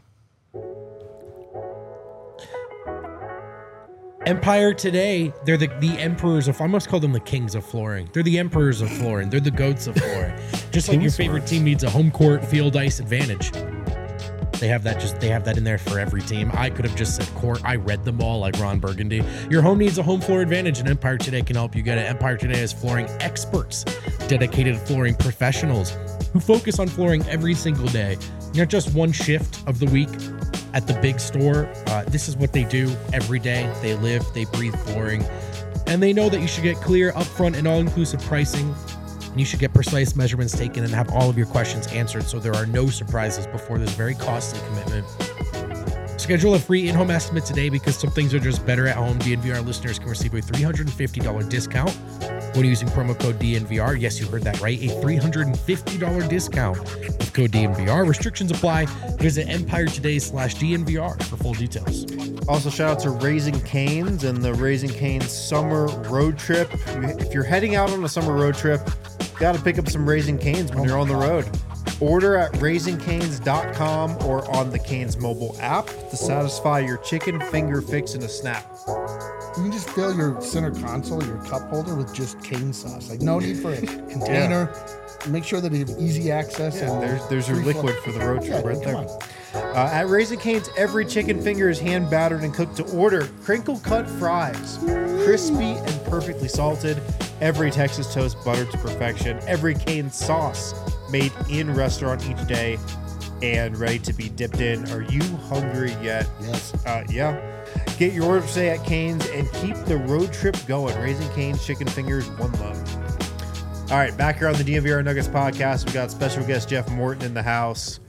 Empire Today, they're the, the emperors of, I must call them the kings of flooring. They're the emperors of flooring. They're the goats of flooring. Just like your Kings favorite works. team needs a home court field ice advantage. They have that just they have that in there for every team. I could have just said court. I read them all like Ron Burgundy. Your home needs a home floor advantage, and Empire Today can help you get it. Empire Today is flooring experts, dedicated flooring professionals who focus on flooring every single day. Not just one shift of the week at the big store. Uh, this is what they do every day. They live, they breathe flooring, and they know that you should get clear, upfront, and all-inclusive pricing. You should get precise measurements taken and have all of your questions answered so there are no surprises before this very costly commitment. Schedule a free in-home estimate today because some things are just better at home. D N V R listeners can receive a three hundred fifty dollars discount when using promo code D N V R. Yes, you heard that right. A three hundred fifty dollars discount with code D N V R. Restrictions apply. Visit Empire Today slash D N V R for full details. Also, shout out to Raising Canes and the Raising Canes summer road trip. If you're heading out on a summer road trip, you got to pick up some Raising Canes when you're on the road. Order at raising canes dot com or on the Canes mobile app to satisfy your chicken finger fix in a snap. You can just fill your center console, your cup holder, with just cane sauce. Like no need for a container. Make sure that you have easy access. Yeah, and there's there's your free liquid flow. for the road trip Yeah, right come there. on. Uh, at Raising Cane's, every chicken finger is hand battered and cooked to order. Crinkle cut fries, crispy and perfectly salted. Every Texas toast buttered to perfection. Every cane sauce made in restaurant each day and ready to be dipped in. Are you hungry yet? Yes. Uh, yeah. Get your order today at Cane's and keep the road trip going. Raising Cane's chicken fingers, one love. All right, back here on the D N V R Nuggets podcast, we got special guest Jeff Morton in the house.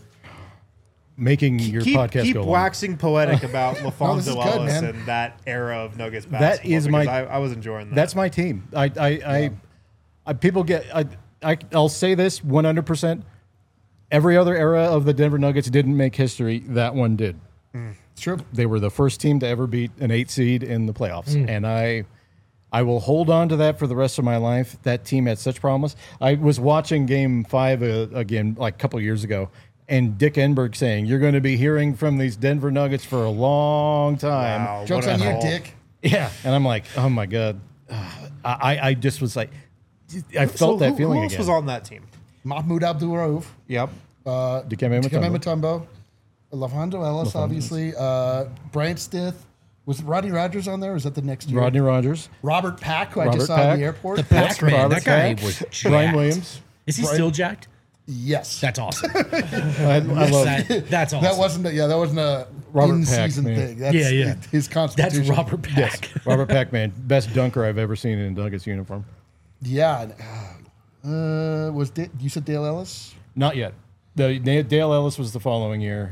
making your keep, podcast keep go on. waxing poetic about No, this LaFonso is good, Ellis man. and that era of Nuggets That basketball. is my- because I, I was enjoying that. That's my team. I, I, I, I people get. I, I, I'll say this one hundred percent. Every other era of the Denver Nuggets didn't make history. That one did. It's true. They were the first team to ever beat an eight seed in the playoffs, and I, I will hold on to that for the rest of my life. That team had such promise. I was watching Game Five uh, again, like a couple years ago, and Dick Enberg saying, "You're going to be hearing from these Denver Nuggets for a long time." Wow, Jokes what on a you, haul. Dick. Yeah, and I'm like, "Oh my god," I, I just was like, I felt So that who, feeling who else again. was on that team? Mahmoud Abdul Rauf. Yep. Uh, Dikembe Dikembe Mutombo. Mutombo. Lavando Ellis, obviously. Uh, Bryant Stith. Was Rodney Rogers on there? Or was that the next year? Rodney Rogers, Robert Pack, who I Robert just saw Pack. in the airport. The Pac Man, Robert that guy Pack. was Brian jacked. Williams. Is he Brian- still jacked? Yes. That's awesome. I, I love That- that's awesome. That wasn't a, yeah, that wasn't a Robert in-season Pack, man. thing. That's Yeah, yeah. his constitution. That's Robert Pack. Robert Pac-Man, best dunker I've ever seen in a Nuggets uniform. Yeah. and, Uh, was Da- you said Dale Ellis? Not yet. The Dale Ellis was the following year.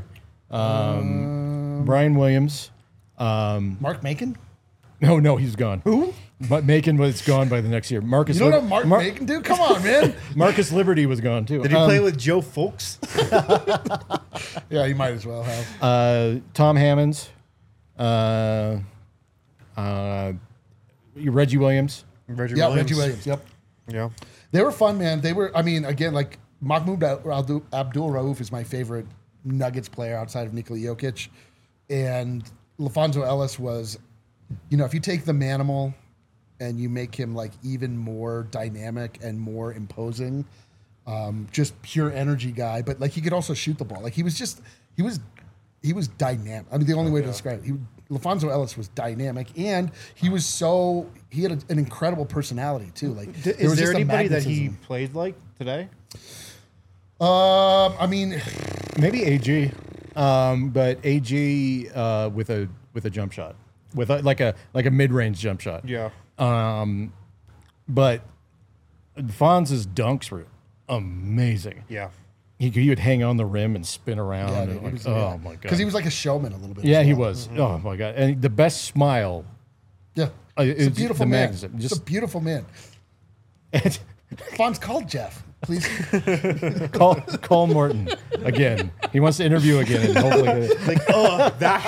Um, Brian Williams. Um, Mark Macon? no, no, he's gone. Who? But Macon was gone by the next year. Marcus. You don't Lib- know Mark Mar- Macon, dude? Come on, man. Marcus Liberty was gone too. Did he Um, play with Joe Folks? Yeah, you might as well have. uh, Tom Hammonds? Uh, uh, Reggie Williams. Reggie Yeah, Williams. Reggie Williams. Yep. Yeah. They were fun, man. They were, I mean, again, like Mahmoud Abdul Rauf is my favorite Nuggets player outside of Nikola Jokic. And LaFonso Ellis was, you know, if you take the Manimal and you make him like even more dynamic and more imposing, um, just pure energy guy, but like he could also shoot the ball. Like he was just, he was, he was dynamic. I mean, the only way to describe it, he, LaFonso Ellis was dynamic, and he was so he had a, an incredible personality too. Like, D- there is was there just a anybody that he magnetism. played like today? Um, I mean, Maybe A G, um, but A G uh, with a with a jump shot, with a, like a like a mid range jump shot. Yeah. Um, but Fonz's dunks were amazing. Yeah. He, he would hang on the rim and spin around. yeah, and dude, he like, was, oh my god! because he was like a showman a little bit. yeah, as he well. was. Oh my god! And the best smile. Yeah, Uh, it's a it's beautiful the man. magazine. It's Just- a beautiful man. And Fonz called Jeff, please. call call Morton again. He wants to interview again. And hopefully, get it. Like, oh, that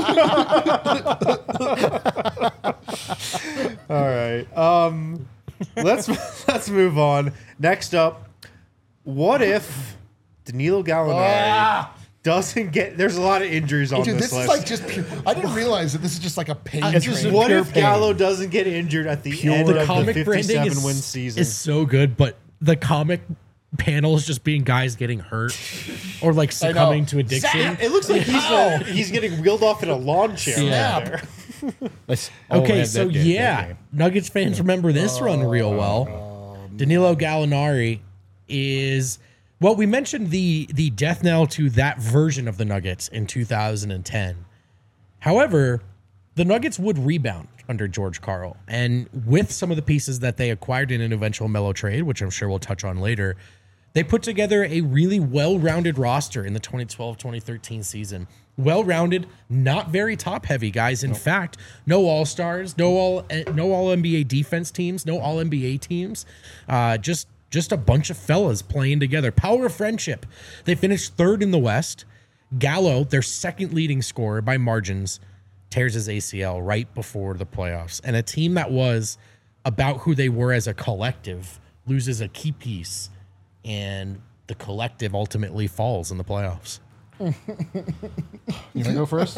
guy. All right. Um, let's let's move on. Next up, what if Danilo Gallinari doesn't get? There's a lot of injuries on Dude, this, this is list. like just pure. I didn't realize that this is just like a pain It's just train. what pure if pain. Gallo doesn't get injured at the end The of comic the branding fifty-seven is, win season? is so good, but the comic panel is just being guys getting hurt or like succumbing to addiction. it looks like he's uh, he's getting wheeled off in a lawn chair Yeah. right there. Let's- oh, Okay, man, so that game, that yeah, game. Nuggets fans remember this run real well. Danilo Gallinari is well. We mentioned the the death knell to that version of the Nuggets in two thousand ten. However, the Nuggets would rebound under George Karl, and with some of the pieces that they acquired in an eventual Melo trade, which I'm sure we'll touch on later, they put together a really well-rounded roster in the twenty twelve twenty thirteen season. Well-rounded, not very top-heavy guys. In fact, no All-Stars, no all no All N B A defense teams, no All N B A teams. Uh, just just a bunch of fellas playing together. Power of friendship. They finished third in the West. Gallo, their second leading scorer by margins, tears his A C L right before the playoffs. And a team that was about who they were as a collective loses a key piece, and the collective ultimately falls in the playoffs. You want to go first?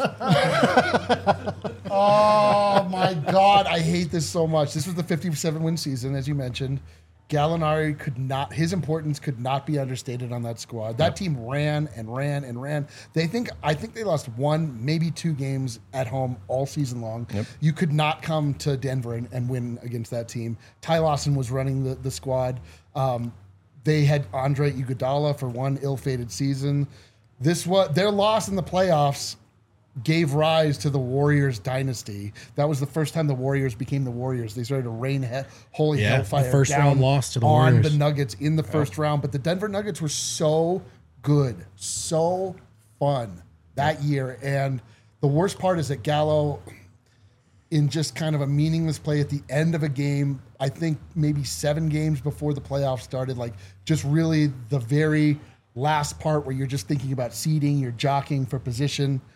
Oh my God, I hate this so much. This was the fifty-seven win season, as you mentioned. Gallinari could not, his importance could not be understated on that squad. That team ran and ran and ran. They think, I think they lost one, maybe two games at home all season long. Yep. You could not come to Denver and, and win against that team. Ty Lawson was running the, the squad. Um, they had Andre Iguodala for one ill-fated season. This was their loss in the playoffs gave rise to the Warriors dynasty. That was the first time the Warriors became the Warriors. They started to rain he- holy Yeah, the hellfire first down round loss to the on Warriors. the Nuggets in the first round. But the Denver Nuggets were so good, so fun that year. And the worst part is that Gallo, in just kind of a meaningless play at the end of a game, I think maybe seven games before the playoffs started, like just really the very last part where you're just thinking about seeding, you're jockeying for position,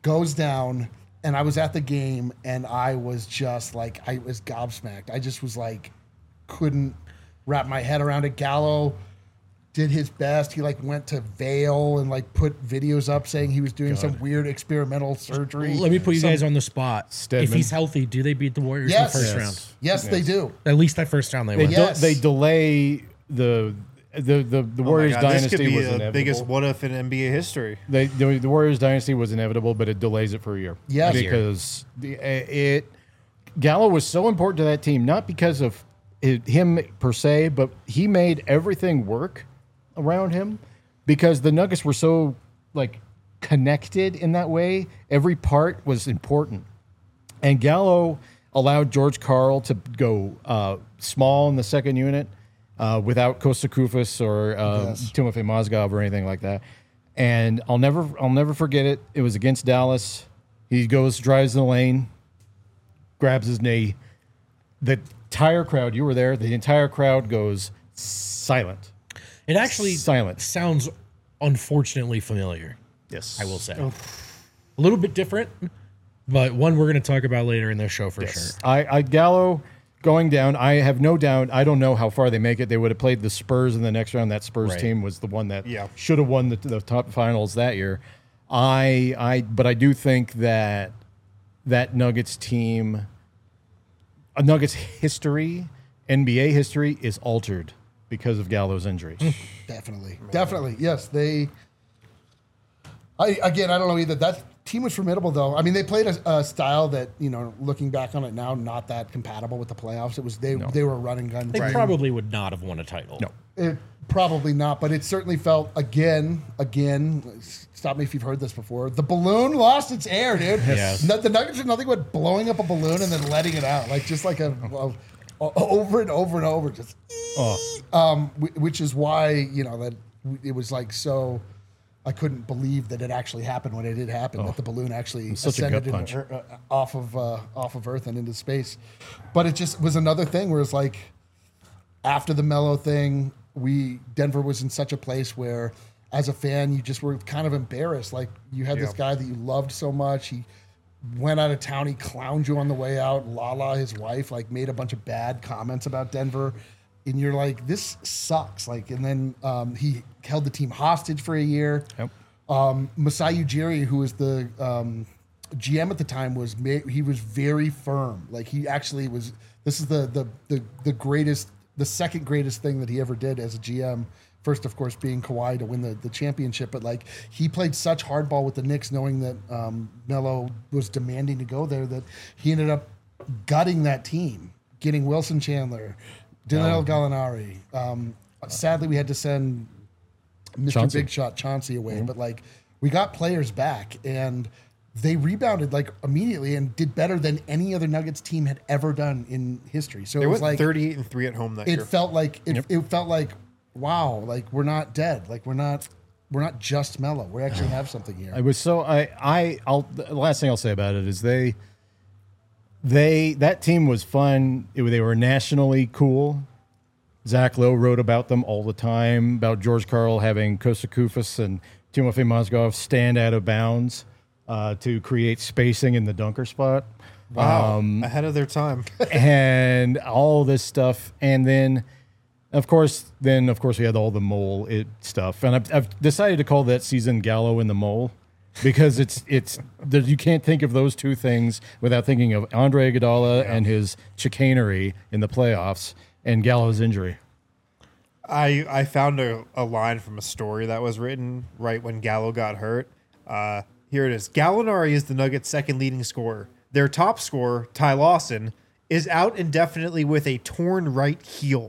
goes down, and I was at the game, and I was just like, I was gobsmacked. I just was like, couldn't wrap my head around it. Gallo did his best. He like went to Vail and like put videos up saying he was doing God. some weird experimental surgery. Let me put you Some- guys on the spot. Stedman. If he's healthy, do they beat the Warriors Yes. in the first Yes. round? Yes, they do. At least that first round they They, win. de- Yes. they delay the the the, the Oh my Warriors God, dynasty this could be was the inevitable. biggest what if in N B A history. They, the, the Warriors dynasty was inevitable, but it delays it for a year. Yes. A year. because the, it Gallo was so important to that team, not because of it, him per se, but he made everything work around him because the Nuggets were so like connected in that way. Every part was important, and Gallo allowed George Karl to go uh, small in the second unit. Uh, without Kosta Koufos or uh, Yes. Timofey Mozgov or anything like that, and I'll never, I'll never forget it. It was against Dallas. He goes, drives the lane, grabs his knee. The entire crowd, you were there. The entire crowd goes silent. It actually Silent. sounds unfortunately familiar, Yes, I will say. A little bit different, but one we're going to talk about later in this show for sure. I, I Gallo going down. I have no doubt. I don't know how far they make it. They would have played the Spurs in the next round. That Spurs Right. team was the one that Yeah. should have won the, the top finals that year. I, I, but I do think that that Nuggets team, a Nuggets history, N B A history is altered because of Gallo's injury. Definitely. Definitely. Yes, they. I again, I don't know either. That team was formidable, though. I mean, they played a, a style that, you know, looking back on it now, not that compatible with the playoffs. It was they they were a run and gun. They team. probably would not have won a title. No. It, probably not, but it certainly felt again, again. Stop me if you've heard this before. The balloon lost its air, dude. Yes. No- The Nuggets are nothing but blowing up a balloon and then letting it out, like just like a, a- a- over and over and over, just. Oh, Um, wh- which is why, you know, that it was like so. I couldn't believe that it actually happened when it did happen. That the balloon actually such a gut ascended punch. into, uh, off of uh, off of Earth and into space. But it just was another thing where it's like after the Melo thing, we Denver was in such a place where, as a fan, you just were kind of embarrassed. Like you had this Yeah. guy that you loved so much. He went out of town. He clowned you on the way out. Lala, his wife, like made a bunch of bad comments about Denver. And you're like, this sucks. Like, and then um, he held the team hostage for a year. Yep. Um, Masai Ujiri, who was the um, G M at the time, was ma- he was very firm. Like he actually was. This is the the the the greatest, the second greatest thing that he ever did as a G M. First, of course, being Kawhi to win the, the championship, but like he played such hardball with the Knicks, knowing that um, Melo was demanding to go there, that he ended up gutting that team, getting Wilson Chandler, Danilo Gallinari. Um, sadly, we had to send Mister Chauncey. Big Shot Chauncey away, but like we got players back and they rebounded like immediately and did better than any other Nuggets team had ever done in history. So They it was went like thirty-eight and three at home that it year. felt like it, it felt like wow, like we're not dead, like we're not we're not just Mellow. We actually have something here. I was so I I I'll the last thing I'll say about it is they they that team was fun. It, they were nationally cool. Zach Lowe wrote about them all the time, about George Karl having Kosta Koufos and Timofey Mozgov stand out of bounds uh, to create spacing in the dunker spot. Wow, Um, ahead of their time. and all this stuff. And then, of course, then of course we had all the mole it stuff. And I've, I've decided to call that season Gallo and the Mole because it's it's there, you can't think of those two things without thinking of Andre Iguodala and his chicanery in the playoffs and Gallo's injury. I I found a, a line from a story that was written right when Gallo got hurt. Uh, here it is. Gallinari is the Nuggets' second leading scorer. Their top scorer, Ty Lawson, is out indefinitely with a torn right heel.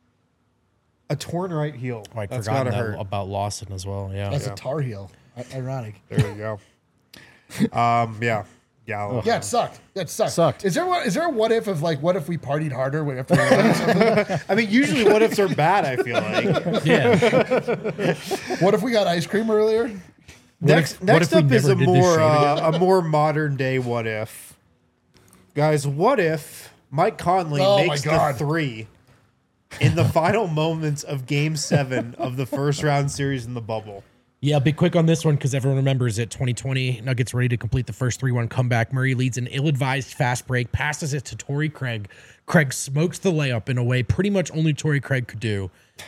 A torn right heel. Oh, I'd That's forgotten gotta that hurt. about Lawson as well. Yeah. That's a Tar Heel. I- ironic. There you go. um, yeah, Gallo. Yeah, it sucked. Yeah, it sucked. Sucked. Is there what? Is there a what if of like what if we partied harder after we won something? I mean, usually what ifs are bad. I feel like. Yeah. What if we got ice cream earlier? Next, if- what next if we up is never a did this more show uh, a more modern day what if. Guys, what if Mike Conley Oh my makes the God. three in the final moments of Game Seven of the first round series in the bubble? Yeah, be quick on this one because everyone remembers it. twenty twenty, Nuggets ready to complete the first three one comeback. Murray leads an ill-advised fast break, passes it to Torrey Craig. Craig smokes the layup in a way pretty much only Torrey Craig could do.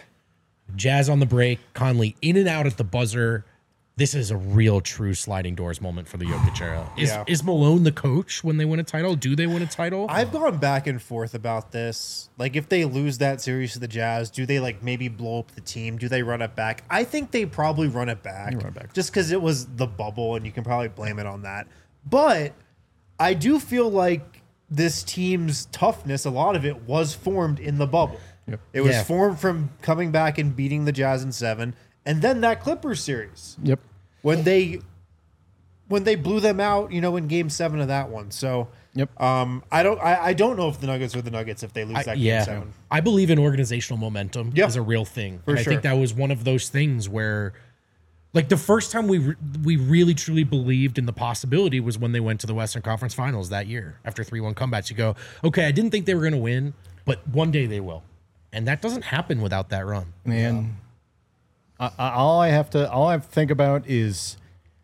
Jazz on the break, Conley in and out at the buzzer. This is a real true sliding doors moment for the Jokic era. Is, Yeah. is Malone the coach when they win a title? Do they win a title? I've gone back and forth about this. Like, if they lose that series to the Jazz, do they like maybe blow up the team? Do they run it back? I think they probably run it back, run it back. just because it was the bubble, and you can probably blame it on that. But I do feel like this team's toughness, a lot of it was formed in the bubble. Yep. It was Yeah. formed from coming back and beating the Jazz in seven, and then that Clippers series Yep. when they when they blew them out, you know, in game seven of that one. So Yep. um, I don't I, I don't know if the Nuggets are the Nuggets if they lose I, that yeah, game seven. I believe in organizational momentum Yeah. is a real thing. For and I sure. think that was one of those things where, like, the first time we re- we really truly believed in the possibility was when they went to the Western Conference Finals that year after three one comebacks. You go, okay, I didn't think they were going to win, but one day they will, and that doesn't happen without that run. Man, I, I, all I have to all I have to think about is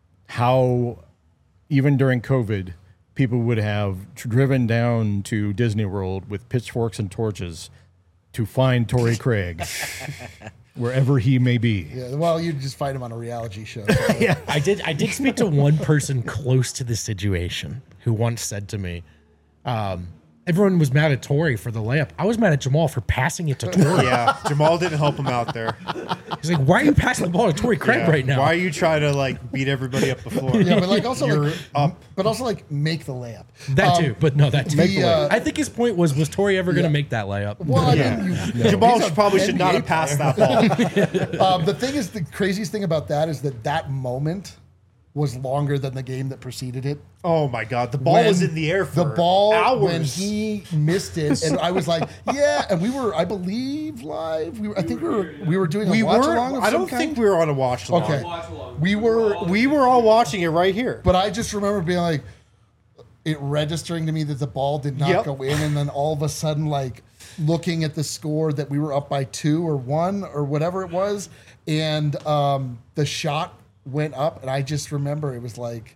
how even during COVID, people would have driven down to Disney World with pitchforks and torches to find Torrey Craig wherever he may be. Yeah, well, you just fight him on a reality show. Yeah, I did. I did speak to one person close to the situation who once said to me, um, "Everyone was mad at Torrey for the layup. I was mad at Jamal for passing it to Torrey." Yeah, Jamal didn't help him out there. He's like, "Why are you passing the ball to Torrey Craig Yeah. right now?" Why are you trying to like beat everybody up the floor? Yeah, but like also You're like up. but also like make the layup. That Um, too, but no, that too. the, uh, I think his point was: was Torrey ever going to Yeah. make that layup? Well, I Yeah. mean, you, Jamal he's a probably should not N B A have passed player. that ball. Um, the thing is, the craziest thing about that is that that moment was longer than the game that preceded it. Oh my God, the ball When was in the air for the ball hours. when he missed it, and I was like, yeah, and we were, I believe, live. We were, I think we were, we were doing a we watch were. along. Of I some don't kind. think we were on a watch along. Okay. Watch along. We were, We were all watching it right here. but I just remember being like, it registering to me that the ball did not Yep. go in, and then all of a sudden, like looking at the score that we were up by two or one or whatever it was, and um, the shot went up, and I just remember it was like,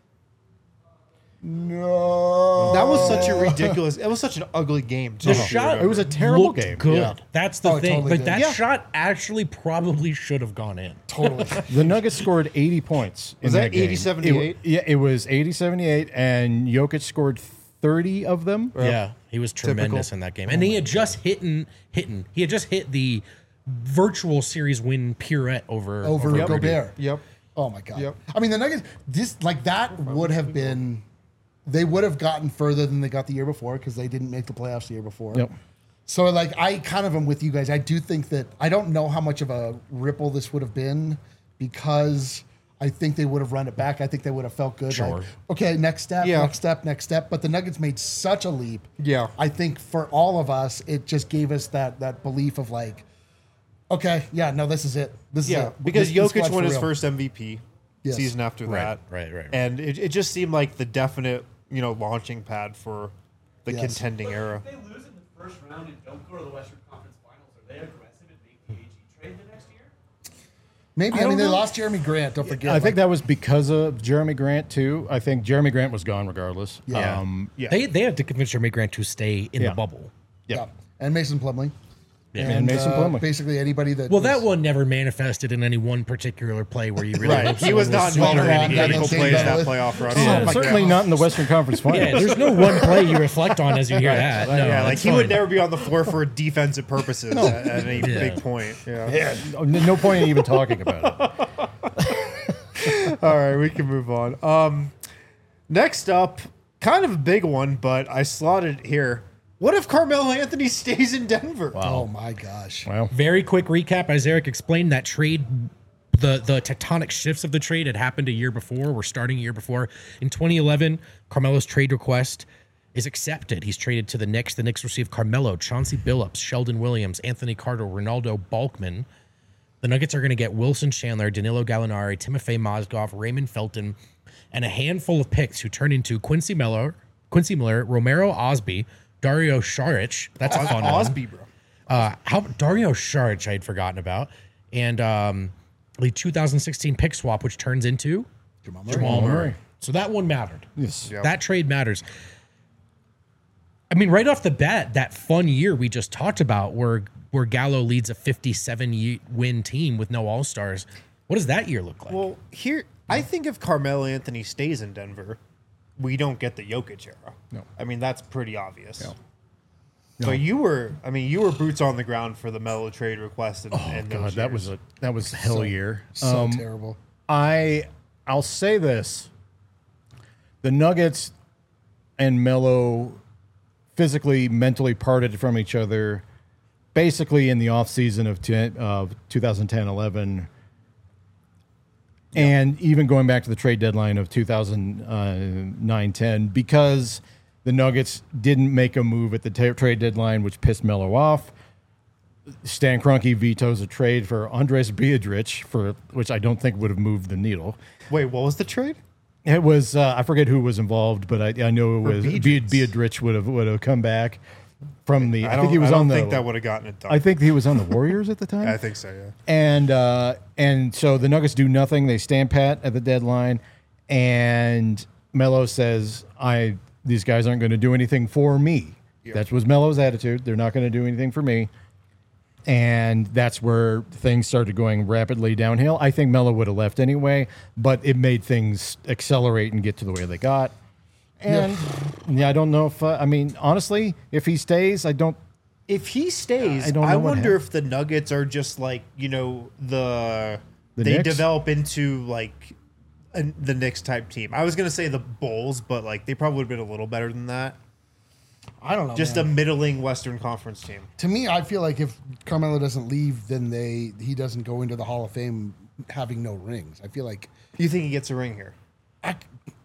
no, That was such a ridiculous. It was such an ugly game. Too. The shot It was a terrible looked game. Good. Yeah. That's the Oh, it thing. totally like did. that Yeah. shot actually probably should have gone in. totally. The Nuggets scored eighty points. Was in that game. eighty seventy-eight? It- Yeah, it was eighty seventy-eight, and Jokic scored thirty of them. Yeah, he was tremendous in that game, and he had just hit and hitting. He had just hit the virtual series win pirouette over over Rudy. Gobert. Yep. Oh my god. Yep. I mean, the Nuggets, this like that would have been, they would have gotten further than they got the year before because they didn't make the playoffs the year before. Yep. So like, I kind of am with you guys. I do think that I don't know how much of a ripple this would have been because I think they would have run it back. I think they would have felt good. Sure. Like, okay, next step, Yeah. next step, next step. But the Nuggets made such a leap. Yeah. I think for all of us, it just gave us that that belief of like, okay, yeah, no, this is it. This Yeah, is it. because This- this Jokic squad's won for his real. first M V P Yes. season after Right, that. right, right, right. And it, it just seemed like the definite, you know, launching pad for the Yes. contending era. If they lose in the first round and don't go to the Western Conference Finals, are they aggressive at making the A G trade the next year? Maybe. I, I mean, don't they know. lost Jeremy Grant. Don't forget. I like, think that was because of Jeremy Grant too. I think Jeremy Grant was gone regardless. Yeah. Um, Yeah. They they had to convince Jeremy Grant to stay in Yeah. the bubble. yeah. yeah. And Mason Plumlee. Yeah. And Mason uh, Plumlee. Basically anybody that. Well, was- that one never manifested in any one particular play where you really Right. hope He was someone not involved in super any wrong. critical That plays that didn't playoff run. Yeah. Oh my Certainly God. not in the Western Conference Finals. Yeah, there's no one play you reflect on as you hear that. No, Yeah, like that's he would fine. never be on the floor for defensive purposes at, at any Yeah. big point. Yeah. Yeah, no no point in even talking about it. All right, we can move on. Um, next up, kind of a big one, but I slotted it here. What if Carmelo Anthony stays in Denver? Oh my gosh. Well, Very quick recap. As Eric explained, that trade, the the tectonic shifts of the trade had happened a year before. We're starting a year before. In twenty eleven, Carmelo's trade request is accepted. He's traded to the Knicks. The Knicks receive Carmelo, Chauncey Billups, Sheldon Williams, Anthony Carter, Ronaldo Balkman. The Nuggets are going to get Wilson Chandler, Danilo Gallinari, Timofey Mozgov, Raymond Felton, and a handful of picks who turn into Quincy Miller, Quincy Miller, Romero Osby, Dario Saric. That's a fun one. Osby, bro. Uh, how Dario Saric I had forgotten about, and um, the two thousand sixteen pick swap, which turns into Jamal Murray. Jamal Murray. Murray. So that one mattered. Yes. Yep. That trade matters. I mean, right off the bat, that fun year we just talked about where where Gallo leads a fifty-seven ye- win team with no All-Stars. What does that year look like? Well, here I think if Carmelo Anthony stays in Denver, we don't get the Jokic era. No. I mean that's pretty obvious. No. But you were, I mean, you were boots on the ground for the Melo trade request. And, Oh and God, those that years. was a that was a hell year. So Um, terrible. I I'll say this: the Nuggets and Melo physically, mentally parted from each other, basically in the offseason of ten, uh, twenty ten eleven, and even going back to the trade deadline of two thousand nine ten, because the Nuggets didn't make a move at the ta trade deadline, which pissed Melo off. Stan Kroenke vetoes a trade for Andres Biedrich, for which I don't think would have moved the needle. Wait, what was the trade? It was uh, I forget who was involved, but I, I know it For was Biedrich. Bied- Biedrich would have would have come back from the. I, I, don't think he was I don't on the. think that would have gotten it done. I think he was on the Warriors at the time. I think so. Yeah. And uh, and so the Nuggets do nothing. They stand pat at the deadline, and Melo says, "I these guys aren't going to do anything for me." That was Melo's attitude. They're not going to do anything for me. And that's where things started going rapidly downhill. I think Melo would have left anyway, but it made things accelerate and get to the way they got. And yeah, I don't know if uh, I mean honestly, if he stays, I don't. If he stays, I I, don't know what wonder happened. if the Nuggets are just like you know the, The they Knicks? develop into like a, the Knicks type team. I was gonna say the Bulls, but like they probably would have been a little better than that. I don't know. Just man. a middling Western Conference team. To me, I feel like if Carmelo doesn't leave, then they he doesn't go into the Hall of Fame having no rings. I feel like, You think he gets a ring here? I,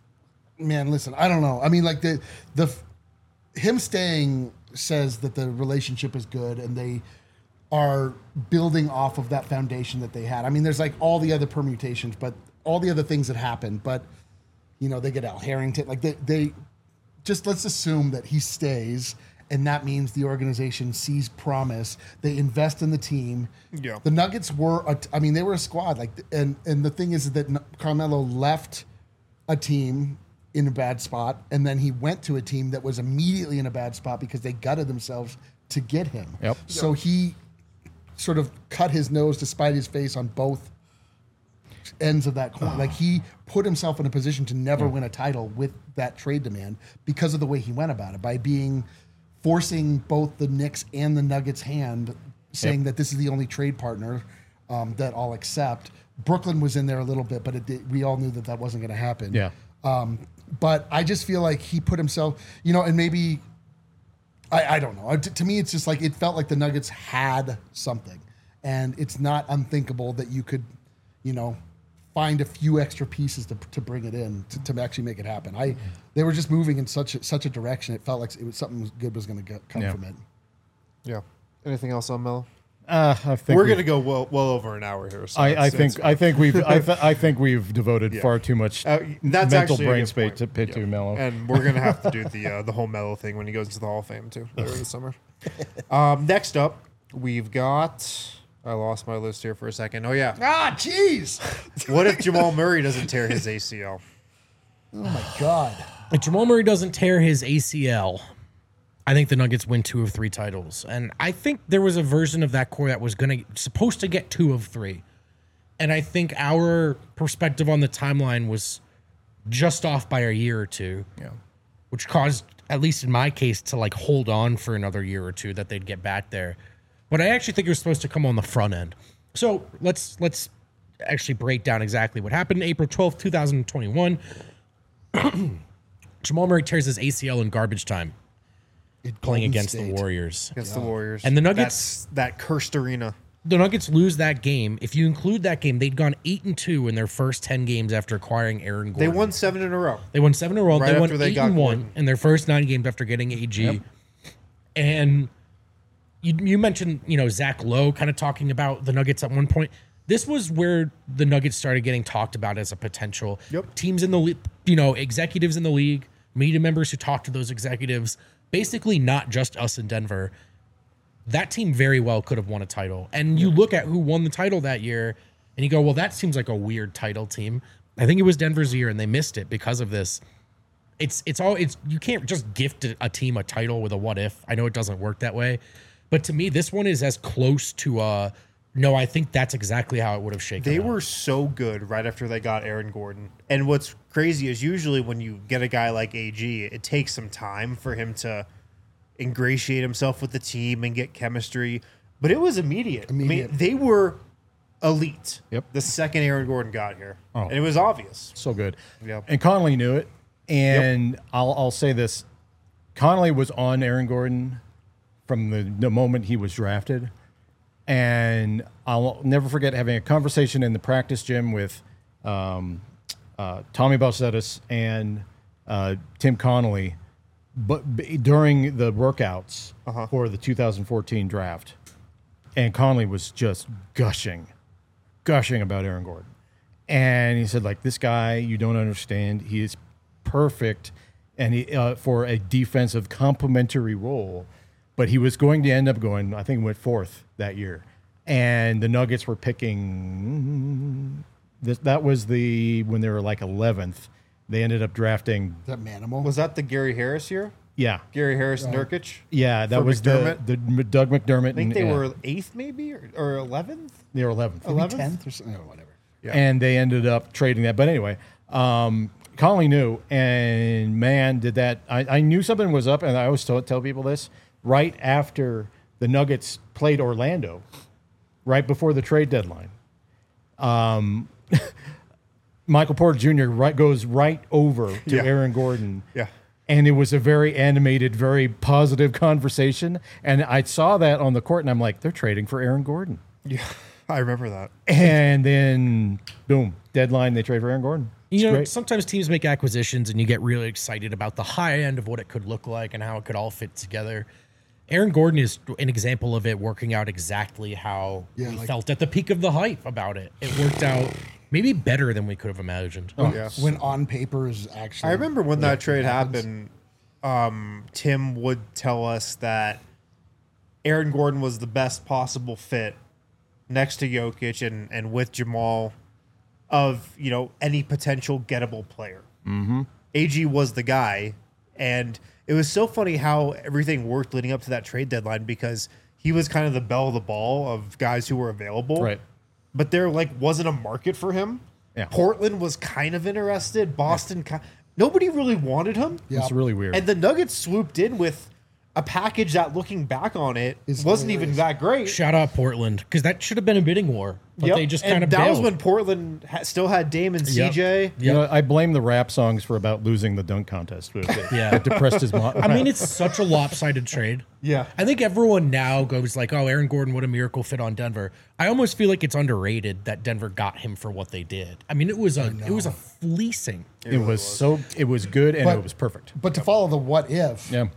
man, listen, I don't know. I mean, like the the him staying says that the relationship is good and they are building off of that foundation that they had. I mean, there's like all the other permutations, but all the other things that happened. But you know, they get Al Harrington. Like they they just let's assume that he stays. And that means the organization sees promise. They invest in the team. Yeah. The Nuggets were, a, I mean, they were a squad. Like, and and the thing is that Carmelo left a team in a bad spot, and then he went to a team that was immediately in a bad spot because they gutted themselves to get him. Yep. So he sort of cut his nose to spite his face on both ends of that coin. Like he put himself in a position to never win a title with that trade demand because of the way he went about it, by being forcing both the Knicks and the Nuggets' hand, saying Yep. that this is the only trade partner um, that I'll accept. Brooklyn was in there a little bit, but it did, we all knew that that wasn't going to happen. Yeah. Um, but I just feel like he put himself, you know, and maybe, I, I don't know. To, to me, it's just like, it felt like the Nuggets had something. And it's not unthinkable that you could, you know, find a few extra pieces to, to bring it in to, to actually make it happen. I they were just moving in such a, such a direction. It felt like it was something good was going to come Yeah. from it. Yeah. Anything else on Melo? Uh, I think We're we- gonna go well, well over an hour here. So I, I it's- think it's- I think we've I, th- I think we've devoted Yeah. far too much Uh, that's mental actually a brain good space point. to pit Yeah. to Melo. And we're gonna have to do the uh, the whole Melo thing when he goes into the Hall of Fame too later this summer. Um, next up, we've got. I lost my list here for a second. Oh yeah, Ah, jeez. what if Jamal Murray doesn't tear his A C L? Oh my God. If Jamal Murray doesn't tear his A C L, I think the Nuggets win two of three titles. And I think there was a version of that core that was going to supposed to get two of three. And I think our perspective on the timeline was just off by a year or two, Yeah. which caused, at least in my case, to like hold on for another year or two that they'd get back there. But I actually think it was supposed to come on the front end. So let's let's actually break down exactly what happened. April twelfth, twenty twenty-one. Jamal Murray tears his A C L in garbage time It playing Golden against the State. Warriors. Against the Warriors And the Nuggets- That's that cursed arena. The Nuggets lose that game. If you include that game, they'd gone eight and two in their first ten games after acquiring Aaron They Gordon. won seven in a row. They won seven in a row. Right they won after they eight got and one Gordon. in their first nine games after getting A G. Yep. And you, you mentioned, you know, Zach Lowe kind of talking about the Nuggets at one point. This was where the Nuggets started getting talked about as a potential. Yep. Teams in the league, you know, executives in the league, media members who talk to those executives, basically not just us in Denver. That team very well could have won a title. And you look at who won the title that year, And you go, well, that seems like a weird title team. I think it was Denver's year, and they missed it because of this. It's it's all it's you can't just gift a, a team a title with a what if. I know it doesn't work that way, but to me, this one is as close to uh no. I think that's exactly how it would have shaken. They out. were so good right after they got Aaron Gordon. And what's crazy is usually when you get a guy like A G, it takes some time for him to ingratiate himself with the team and get chemistry. But it was immediate. Immediate. I mean, they were elite. Yep. The second Aaron Gordon got here, Oh. and it was obvious. So good. Yep. And Connolly knew it. And I'll, I'll say this. Connolly was on Aaron Gordon from the, the moment he was drafted. And I'll never forget having a conversation in the practice gym with um, uh, Tommy Balcetis and uh, Tim Connolly but b- during the workouts Uh-huh. for the two thousand fourteen draft. And Connolly was just gushing, gushing about Aaron Gordon. And he said, like, this guy, you don't understand. He is perfect and he, uh, for a defensive complementary role. But he was going to end up going, I think he went fourth that year. And the Nuggets were picking, this, that was the, when they were like eleventh, they ended up drafting, Is that Manimal? Was that the Gary Harris year? yeah. Gary Harris and Nurkic? Yeah, that For was the, McDermott? the M- Doug McDermott. I think and, they yeah, were eighth maybe or, or eleventh? they were eleventh. Maybe eleventh? tenth or something. Oh, whatever. Yeah. And they ended up trading that. But anyway, um, Connolly knew, and man, did that. I, I knew something was up, and I always tell, tell people this right after the Nuggets played Orlando, right before the trade deadline. Um, Michael Porter Junior right, goes right over to Yeah. Aaron Gordon. Yeah. And it was a very animated, very positive conversation. And I saw that on the court, and I'm like, they're trading for Aaron Gordon. Yeah. I remember that. And then, boom, deadline, they trade for Aaron Gordon. It's You know, great. sometimes teams make acquisitions and you get really excited about the high end of what it could look like and how it could all fit together. Aaron Gordon is an example of it working out exactly how Yeah, we like- felt at the peak of the hype about it. It worked out maybe better than we could have imagined. Oh, yeah. When on paper is actually. I remember when that trade happens. happened, um, Tim would tell us that Aaron Gordon was the best possible fit next to Jokic and, and with Jamal of, you know, any potential gettable player. Mm-hmm. A G was the guy. And it was so funny how everything worked leading up to that trade deadline because he was kind of the belle of the ball of guys who were available. Right. But there like wasn't a market for him. Yeah. Portland was kind of interested. Boston, ki- nobody really wanted him. Yeah. It's really weird. And the Nuggets swooped in with a package that, looking back on it, Is wasn't even hilarious. that great. Shout out Portland, because that should have been a bidding war. But Yep. they just And kind of that was bailed. when Portland ha- still had Dame and Yep. C J. You know, I blame the rap songs for about losing the dunk contest. It, Yeah. it depressed his mind. I mean, it's such a lopsided trade. Yeah. I think everyone now goes like, oh, Aaron Gordon, what a miracle fit on Denver. I almost feel like it's underrated that Denver got him for what they did. I mean, it was a it was a fleecing. it was so it was good and But- it was perfect. But to follow the what if, Yeah,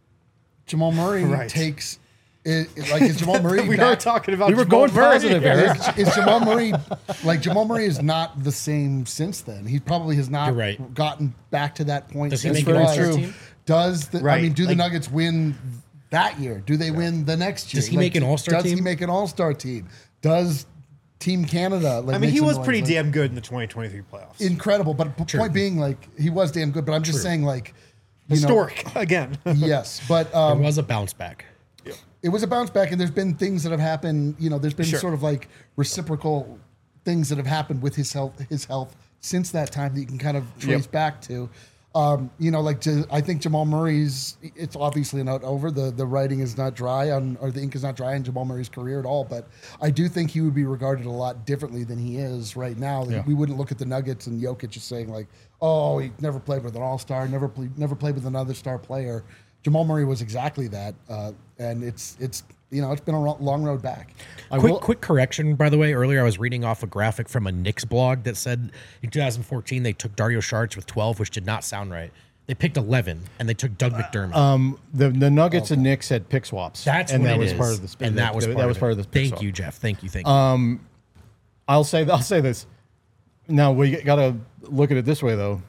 Jamal Murray Right. takes. It, it- like is Jamal Murray? we back- were talking about we were Jamal going Murray. positive, Eric. Is, is Jamal Murray like Jamal Murray is not the same since then? He probably has not You're right. gotten back to that point. Does he since make an he All-Star was. team? Does the, I Right. mean, do the Like- Nuggets win that year? Do they win the next year? Does he make an All-Star Does he team? make an All Star team? Does Team Canada? Like, I mean, make he some was noise? pretty Like, damn good in the twenty twenty-three playoffs. incredible. But p- point being, like, he was damn good. But I'm just saying, like, you know- Historic again. yes, but It um, was a bounce back. it was a bounce back, and there's been things that have happened. You know, there's been Sure. sort of like reciprocal things that have happened with his health, his health since that time that you can kind of trace Yep. back to. Um, you know, like Ja- I think Jamal Murray's. It's obviously not over. the The writing is not dry on, or the ink is not dry on Jamal Murray's career at all. But I do think he would be regarded a lot differently than he is right now. Like, Yeah. We wouldn't look at the Nuggets and Jokic just saying like, "Oh, he never played with an All Star, never played, never played with another star player." Jamal Murray was exactly that, uh, and it's it's you know it's been a ro- long road back. I Quick, will- quick correction, by the way. Earlier, I was reading off a graphic from a Knicks blog that said in two thousand fourteen they took Dario Saric with twelve, which did not sound right. They picked eleven, and they took Doug McDermott. um, the the Nuggets and Knicks had pick swaps. That's and what that it was is. part of the spin. and that was part that of was it. part of the. pick Thank swap. you, Jeff. Thank you. Thank you. I'll say I'll say this. Now we got to look at it this way, though.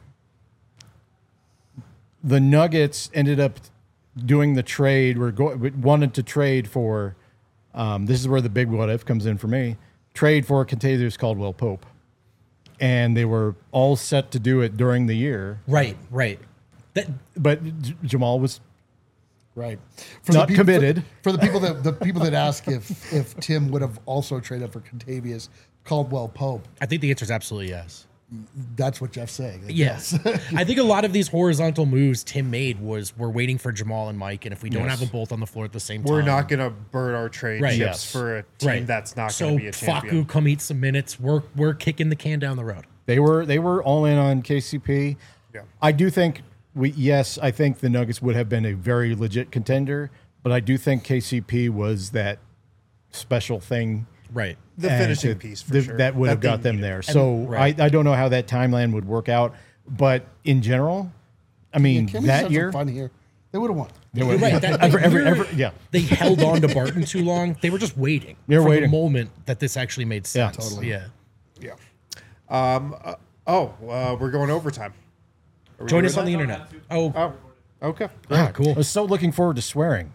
The Nuggets ended up doing the trade. We're go- we wanted to trade for. Um, this is where the big what if comes in for me. trade for Kentavious Caldwell Pope, and they were all set to do it during the year. Right, right. That But J- Jamal was Right. For Not peop- for- committed. For, the people that the people that ask if if Tim would have also traded for Kentavious Caldwell Pope, I think the answer is absolutely yes. that's what Jeff's saying. Yes. I think a lot of these horizontal moves Tim made was we're waiting for Jamal and Mike, and if we don't Yes. have them both on the floor at the same We're time, not going to burn our trade Right. chips Yes. for a team right. that's not so going to be a champion. Facu, come eat some minutes. We're we're kicking the can down the road. They were they were all in on K C P. Yeah. I do think we yes, I think the Nuggets would have been a very legit contender, but I do think K C P was that special thing. Right. The and finishing that- piece for that, sure. that would have they got them needed. there. So right. I, I don't know how that timeline would work out, but in general, I mean Can we just that have year some fun here? They would have won. You're right. That, every, every, you're- every, yeah. They held on to Barton too long. They were just waiting. They were for waiting. the moment that this actually made Yeah, sense. totally. Yeah. Yeah. Um. uh, oh, uh, we're going overtime. Are we Join doing us on the that? internet. Oh, Oh, okay. ah, I cool. was so looking forward to swearing.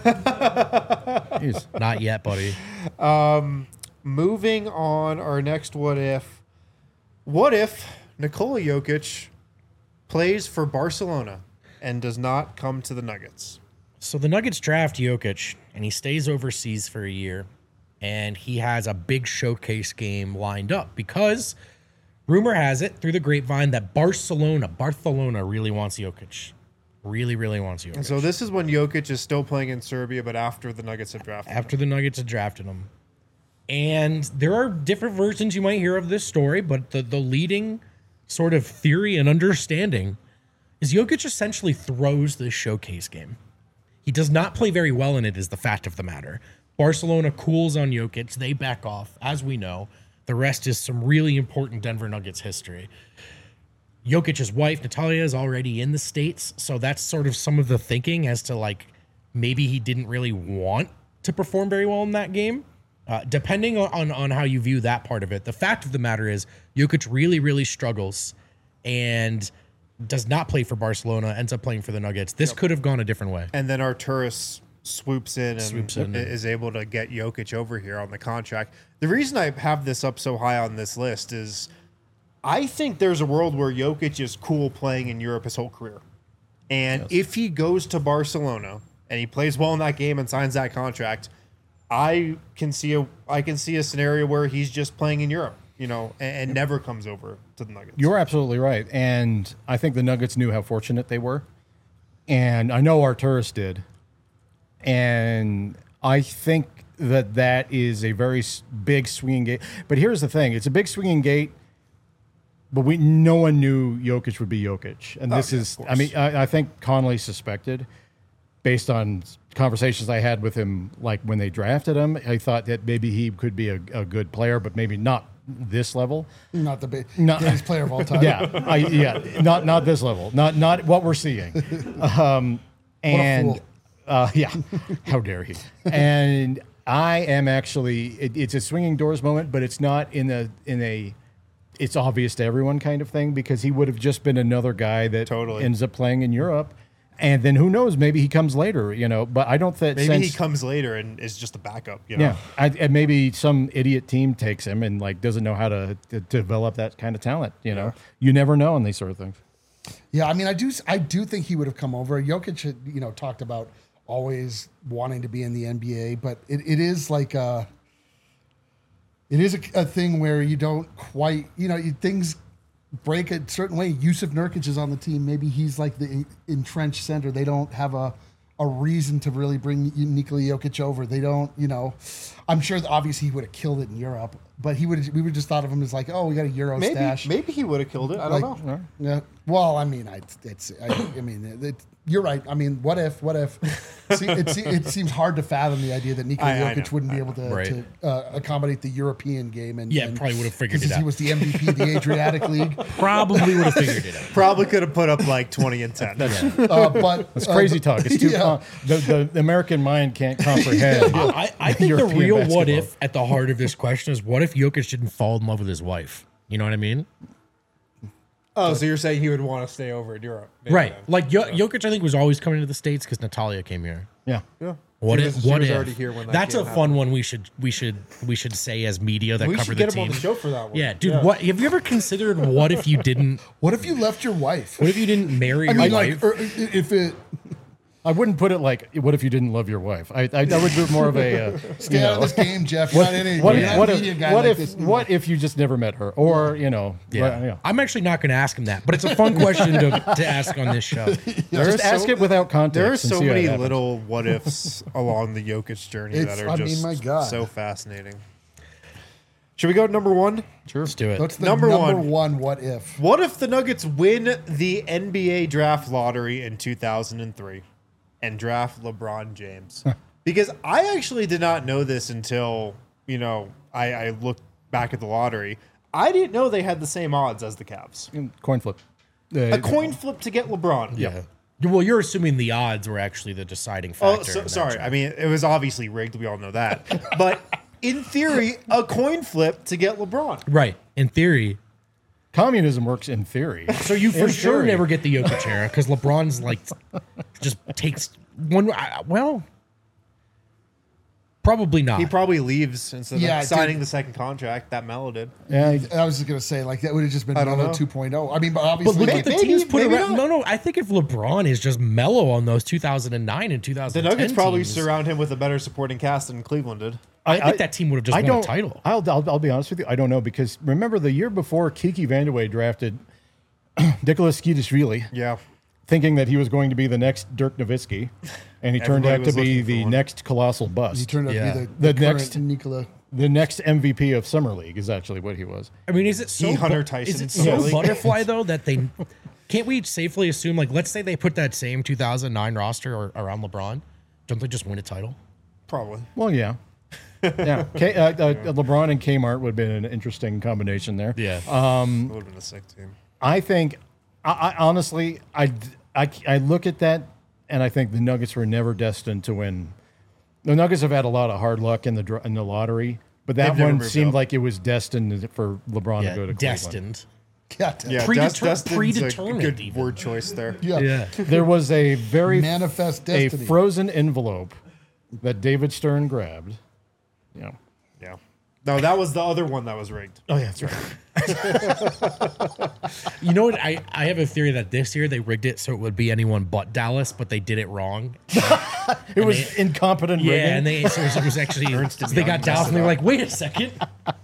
Jeez. Not yet, buddy. Moving on, our next what if. What if Nikola Jokic plays for Barcelona and does not come to the Nuggets? So the Nuggets draft Jokic, and he stays overseas for a year, and he has a big showcase game lined up because rumor has it through the grapevine that Barcelona, Barcelona really wants Jokic. Really, really wants Jokic. And so this is when Jokic is still playing in Serbia, but after the Nuggets have drafted him. after the Nuggets had drafted him. And there are different versions you might hear of this story, but the, the leading sort of theory and understanding is Jokic essentially throws this showcase game. He does not play very well in it, is the fact of the matter. Barcelona cools on Jokic. They back off, as we know. The rest is some really important Denver Nuggets history. Jokic's wife, Natalia, is already in the States, so that's sort of some of the thinking as to, like, maybe he didn't really want to perform very well in that game. Uh, depending on, on how you view that part of it, the fact of the matter is Jokic really, really struggles and does not play for Barcelona, ends up playing for the Nuggets. This could have gone a different way. And then Arturis swoops in and Swoops in. is able to get Jokic over here on the contract. The reason I have this up so high on this list is I think there's a world where Jokic is cool playing in Europe his whole career. And if he goes to Barcelona and he plays well in that game and signs that contract, I can see a I can see a scenario where he's just playing in Europe, you know, and, and never comes over to the Nuggets. You're absolutely right. And I think the Nuggets knew how fortunate they were. And I know Arturis did. And I think that that is a very s- big swinging gate. But here's the thing. It's a big swinging gate, but we no one knew Jokic would be Jokic. And this yeah, is, of I mean, I, I think Conley suspected, based on conversations I had with him, like when they drafted him, I thought that maybe he could be a, a good player, but maybe not this level. Not the ba- No. greatest player of all time. Yeah, I, yeah, not not this level, not not what we're seeing. Um, and fool. uh, yeah, how dare he? And I am actually, it, it's a swinging doors moment, but it's not in a in a, it's obvious to everyone kind of thing, because he would have just been another guy that Totally. ends up playing in Europe. And then who knows? Maybe he comes later, you know. But I don't think Maybe sense, he comes later and is just a backup, you know. yeah, I, and maybe some idiot team takes him and like doesn't know how to, to develop that kind of talent. You know, you never know on these sort of things. Yeah, I mean, I do, I do think he would have come over. Jokic, had, you know, talked about always wanting to be in the N B A, but it, it is like a, it is a, a thing where you don't quite, you know, you, things break a certain way. Yusuf Nurkic is on the team. Maybe he's like the entrenched center. They don't have a, a reason to really bring Nikola Jokic over. They don't, you know, I'm sure that obviously he would have killed it in Europe, but he would, we would just thought of him as like, oh, we got a Euro Maybe stash. maybe he would have killed it. I don't Like, know. Yeah. Well, I mean, I, it's, I, I mean, it, you're right. I mean, what if, what if? See, it, se- it seems hard to fathom the idea that Nikola I- I Jokic know, wouldn't I be able to, Right. to uh, accommodate the European game. And Yeah, and, probably would have figured it because he out. was the M V P of the Adriatic League. Probably would have figured it out. Probably could have put up like twenty and ten. Uh, but It's crazy uh, talk. It's too yeah. com- the, the the American mind can't comprehend. I, I think the European real what basketball. if at the heart of this question is what if Jokic didn't fall in love with his wife? You know what I mean? Oh, so you're saying he would want to stay over in Europe? Maybe Right. then. Like jo- Jokic, I think, was always coming to the States because Natalia came here. Yeah. Yeah. What She if? was- she What was if? already here when that That's a game fun happened. one. We should we should we should say as media that We cover should the get him team. on the show for that one. Yeah, dude. What have you ever considered? What if you didn't? What if you left your wife? What if you didn't marry I your mean, wife? like, or if it I wouldn't put it like, what if you didn't love your wife? I, I, I would do more of a, uh, stay you out of know, this game, Jeff. You're not in it. what, You're if, not what a if, media guy what like if, this. what if you just never met her? Or, you know, Yeah. well, you know. I'm actually not going to ask him that, but it's a fun question to, to ask on this show. There Just are ask so- it without context. There are and so see how it many happens. little what ifs along the Jokic journey It's- that are I mean, just my God. so fascinating. Should we go to number one? Sure. Let's do it. What's the Number number, one. one. What if? What if the Nuggets win the N B A draft lottery in two thousand three and draft LeBron James? Because I actually did not know this until, you know, I, I looked back at the lottery. I didn't know they had the same odds as the Cavs. Coin flip. A coin flip to get LeBron. Yeah. Well, you're assuming the odds were actually the deciding Oh, factor. so, in that sorry. draft. I mean, it was obviously rigged. We all know that. But in theory, a coin flip to get LeBron. Right. In theory. Communism works in theory. So you for In sure theory. never get the Jokic era because LeBron's like just takes one. I- Well, probably not. He probably leaves instead Yeah, of signing dude. the second contract that Melo did. Yeah, I- I was just gonna say like that would have just been I don't Melo know. two point oh. I mean, but but obviously, look like, at the maybe- teams put maybe around. not. No, no. I think if LeBron is just mellow on those two thousand nine and two thousand The ten Nuggets probably teams, surround him with a better supporting cast than Cleveland did. I think that team would have just I won don't, a title. I'll, I'll, I'll be honest with you. I don't know because remember the year before Kiki Vandeweghe drafted Nicholas Skidishvili, Yeah. thinking that he was going to be the next Dirk Nowitzki, and he turned Everybody out to was be looking for the one. next colossal bust. he turned out Yeah. to be the, The the, next- next Nikola. the next M V P of Summer League is actually what he was. I mean, is it so He Hunter bu- Tyson Is it in Summer so League. butterfly though that they can't we safely assume like let's say they put that same two thousand nine roster or, around LeBron, don't they just win a title? Probably. Well, yeah. Yeah, K, uh, uh, LeBron and Kmart would have been an interesting combination there. Yeah. It would have been a sick team. I think, I, I honestly, I, I, I look at that and I think the Nuggets were never destined to win. The Nuggets have had a lot of hard luck in the dr- in the lottery, but that They've never one moved seemed up. like it was destined for LeBron yeah, to go to Cleveland. destined. Yeah, damn. Yeah, Predeter- Dust- Dustin's a predetermined good even. word choice there. yeah. Yeah. There was a very Manifest a destiny. frozen envelope that David Stern grabbed. Yeah. Yeah. No, that was the other one that was rigged. Oh yeah, that's right. You know what? I, I have a theory that this year they rigged it so it would be anyone but Dallas, but they did it wrong. It was incompetent Yeah, rigging. and they so it was actually Ernst and so they Young got messed Dallas and they it were up. like, wait a second,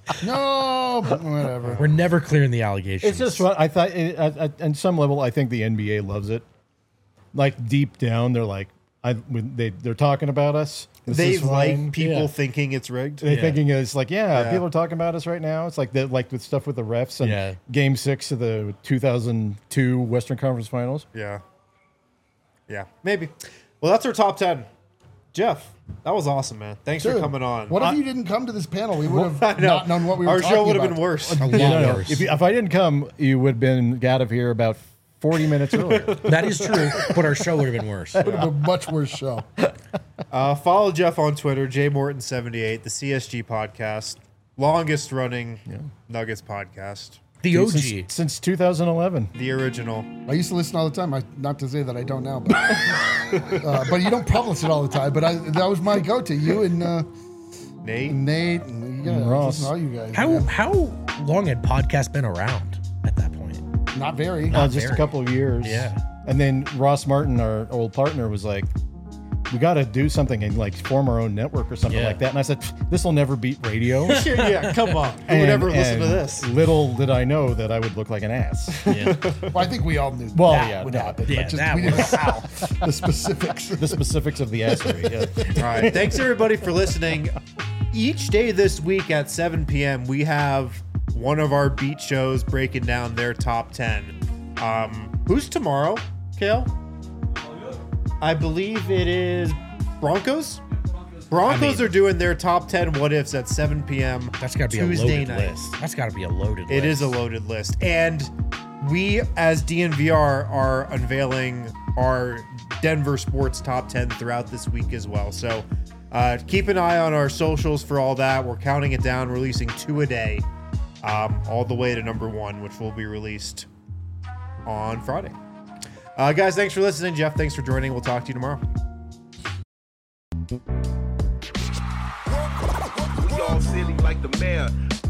No, but whatever. we're never clearing the allegations. It's just what I thought. It, at, at, at some level, I think the N B A loves it. Like deep down, they're like, I when they they're talking about us. This They is fine. like people Yeah. thinking it's rigged. They're Yeah. thinking it's like, yeah, Yeah. people are talking about us right now. It's like the like with stuff with the refs and Yeah. Game Six of the two thousand two Western Conference Finals. Yeah. Yeah, maybe. Well, that's our top ten. Jeff, that was awesome, man. Thanks for Dude, coming on. What if you didn't come to this panel? We would I have know. not known what we were Our talking show would have about. been worse. a lot You know, worse. if, you, if I didn't come, you would have been out of here about forty minutes earlier. That is true, but our show would have been worse. Would have been a much worse show. Uh, follow Jeff on Twitter, J Morton seventy-eight, the C S G podcast, longest running Nuggets podcast, The O G. since, since two thousand eleven. the original. I used to listen all the time. I, not to say that I don't now, but uh, but you don't publish it all the time. But I, that was my go-to. You and uh, Nate. Nate and yeah, And Ross. listen to all you guys. How man. how long had podcast been around at that point? Not very. Uh, just very. a couple of years. Yeah. And then Ross Martin, our old partner, was like, we got to do something and like form our own network or something Yeah. like that. And I said, this will never beat radio. yeah, come on. Who would And- ever listen to and this? Little did I know that I would look like an ass. Yeah. Well, I think we all knew Well, that yeah, would no, happen. yeah, but just, that we didn't know was- how. The specifics. The specifics of the assery. Yeah. All right. Thanks, everybody, for listening. Each day this week at seven p.m., we have one of our beat shows breaking down their top ten. Um, who's tomorrow, Kale? I believe it is Broncos. Broncos I mean- are doing their top ten what ifs at seven p.m. That's got to be Tuesday a loaded night. list. That's got to be a loaded It list. is a loaded list. And we, as D N V R, are unveiling our Denver sports top ten throughout this week as well. So uh, keep an eye on our socials for all that. We're counting it down, releasing two a day, um, all the way to number one, which will be released on Friday. Uh, guys, thanks for listening. Jeff, thanks for joining. We'll talk to you tomorrow. the mayor.